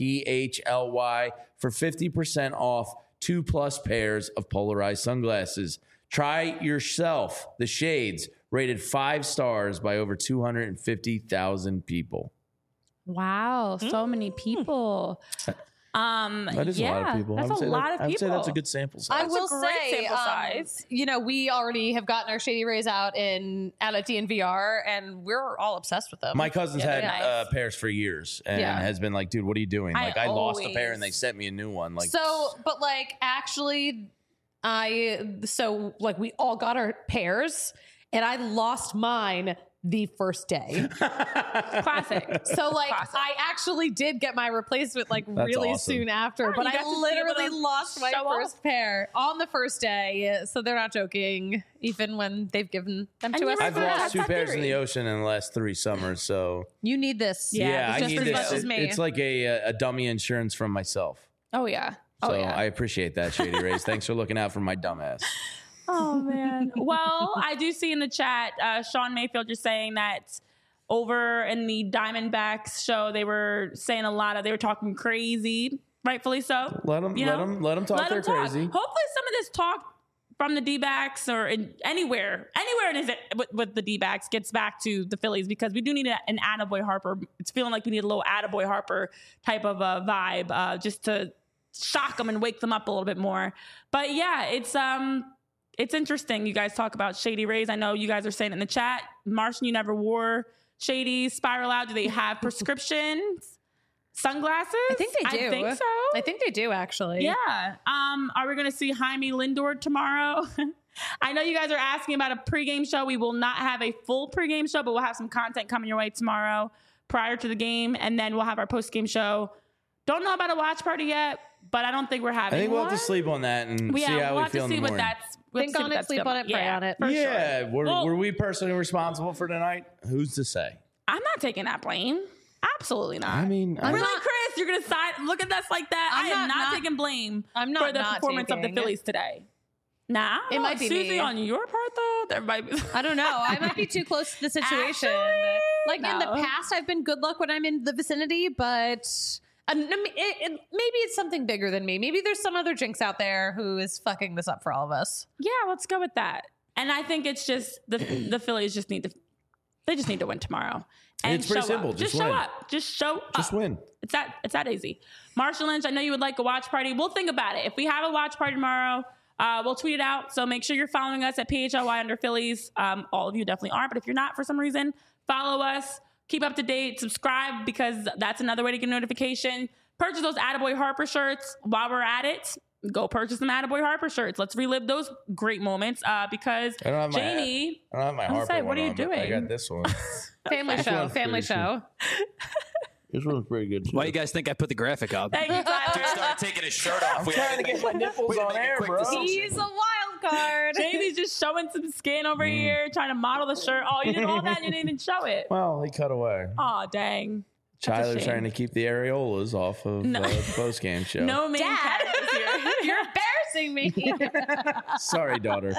PHLY for 50% off 2+ pairs of polarized sunglasses. Try yourself the shades, rated 5 stars by over 250,000 people. Wow. So many people. That is a lot of people. That's I would a say lot of I would say that's a people. good sample size. I That's a will great say, sample size. we already have gotten our Shady Rays out at DNVR, and we're all obsessed with them. My cousin's Yeah, had they're nice. pairs for years and Yeah. has been like, dude, what are you doing? I Like, I lost a pair always- and they sent me a new one. Like, Actually, we all got our pairs, and I lost mine the first day. Classic. So Classic. I actually did get my replacement really awesome. soon after, but you I got to be literally able to lost my show off. first pair on the first day. So they're not joking, even when they've given them And to you us. were I've Yeah, lost that's 2 that pairs in theory. the ocean in the last 3 summers. So You need this. Yeah, I just need as this. much as me. It's like a dummy insurance from myself. Oh, yeah. So Oh, yeah. I appreciate that, Shady Rays. Thanks for looking out for my dumbass. Oh man. Well, I do see in the chat, Sean Mayfield, you're saying that over in the Diamondbacks show, they were saying they were talking crazy, rightfully so. Let them talk their crazy. Hopefully some of this talk from the D-backs or anywhere with the D-backs gets back to the Phillies, because we do need an Attaboy Harper. It's feeling like we need a little Attaboy Harper type of a vibe, just to shock them and wake them up a little bit more. But yeah, it's interesting. You guys talk about Shady Rays. I know you guys are saying it in the chat. Martian, you never wore Shady's Spiral Out. Do they have prescriptions? Sunglasses? I think they do. I think so. I think they do, actually. Yeah. Are we going to see Jaime Lindor tomorrow? I know you guys are asking about a pregame show. We will not have a full pregame show, but we'll have some content coming your way tomorrow prior to the game, and then we'll have our postgame show. Don't know about a watch party yet, but I don't think we're having I think we'll one. have to sleep on that and see how we feel in the morning. Think on it, sleep on it, pray on it. For Yeah. sure. Were we personally responsible for tonight? Who's to say? I'm not taking that blame. Absolutely not. I mean, really, Chris, you're gonna look at us like that? I am not taking blame for the performance of the Phillies today. Nah, It might be Susie me. on your part though. There might be. I don't know. I might be too close to the situation. In the No. past, I've been good luck when I'm in the vicinity, but maybe it's something bigger than me. Maybe there's some other jinx out there who is fucking this up for all of us. Yeah, let's go with that. And I think it's just the Phillies just need to win tomorrow. And it's pretty show simple. Up. Just show win. up. Just show up. Just win. It's that easy. Marshall Lynch, I know you would like a watch party. We'll think about it. If we have a watch party tomorrow, we'll tweet it out. So make sure you're following us at PHLY_Phillies. All of you definitely are. But if you're not for some reason, follow us. Keep up to date. Subscribe, because that's another way to get a notification. Purchase those Attaboy Harper shirts while we're at it. Go purchase some Attaboy Harper shirts. Let's relive those great moments, because I don't have Jamie... I don't have my I was Harper like, what one are you on, but doing? I got this one. Family show. one's Family pretty show. This one's pretty good too. Why do you guys think I put the graphic up? Thank you, Tyler. Dude started taking his shirt off. I'm trying to get my nipples on air, bro. He's a wild card. Jamie's just showing some skin over here, trying to model the shirt. Oh, you did all that and you didn't even show it. Well, he cut away. Oh, dang. That's a Tyler's shame. trying to keep the areolas off of the post-game show. No main Dad. characters here. You're embarrassing me. Sorry, daughter.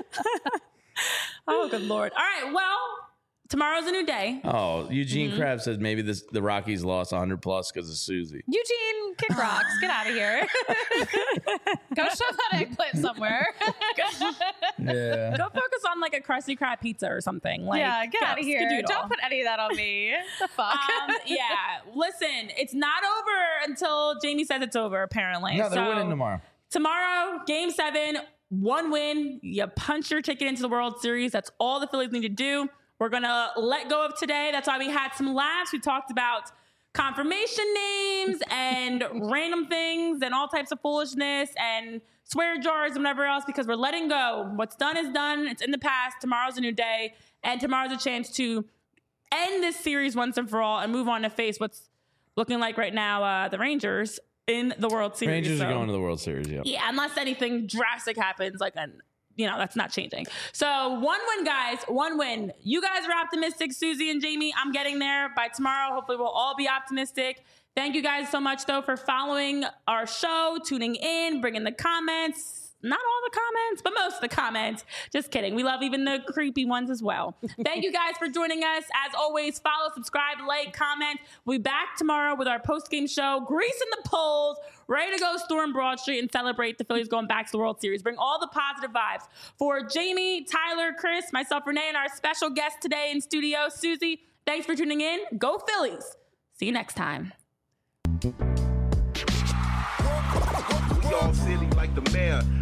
Oh, good Lord. All right, well, tomorrow's a new day. Oh, Eugene Krabs says maybe the Rockies lost 100 plus because of Susie. Eugene, kick rocks. Get out of here. Go shove that eggplant somewhere. Yeah. Go focus on like a Krusty Krab pizza or something. Like, Yeah, get out of here. Skadoodle. Don't put any of that on me. The fuck? Yeah, listen, it's not over until Jamie says it's over, apparently. No, they're So, winning tomorrow. Tomorrow, Game 7, one win. You punch your ticket into the World Series. That's all the Phillies need to do. We're going to let go of today. That's why we had some laughs. We talked about confirmation names and random things and all types of foolishness and swear jars and whatever else, because we're letting go. What's done is done. It's in the past. Tomorrow's a new day. And tomorrow's a chance to end this series once and for all and move on to face what's looking like right now the Rangers in the World Series. Rangers So- are going to the World Series, yeah. yeah, unless anything drastic happens, that's not changing. So 1 win, guys, 1 win. You guys are optimistic, Susie and Jamie. I'm getting there. By tomorrow, hopefully we'll all be optimistic. Thank you guys so much, though, for following our show, tuning in, bringing the comments. Not all the comments, but most of the comments. Just kidding. We love even the creepy ones as well. Thank you guys for joining us. As always, follow, subscribe, like, comment. We'll be back tomorrow with our post-game show, greasing the polls, ready to go storm Broad Street and celebrate the Phillies going back to the World Series. Bring all the positive vibes. For Jamie, Tyler, Chris, myself, Renee, and our special guest today in studio, Susie, thanks for tuning in. Go Phillies. See you next time. We all silly like the mayor.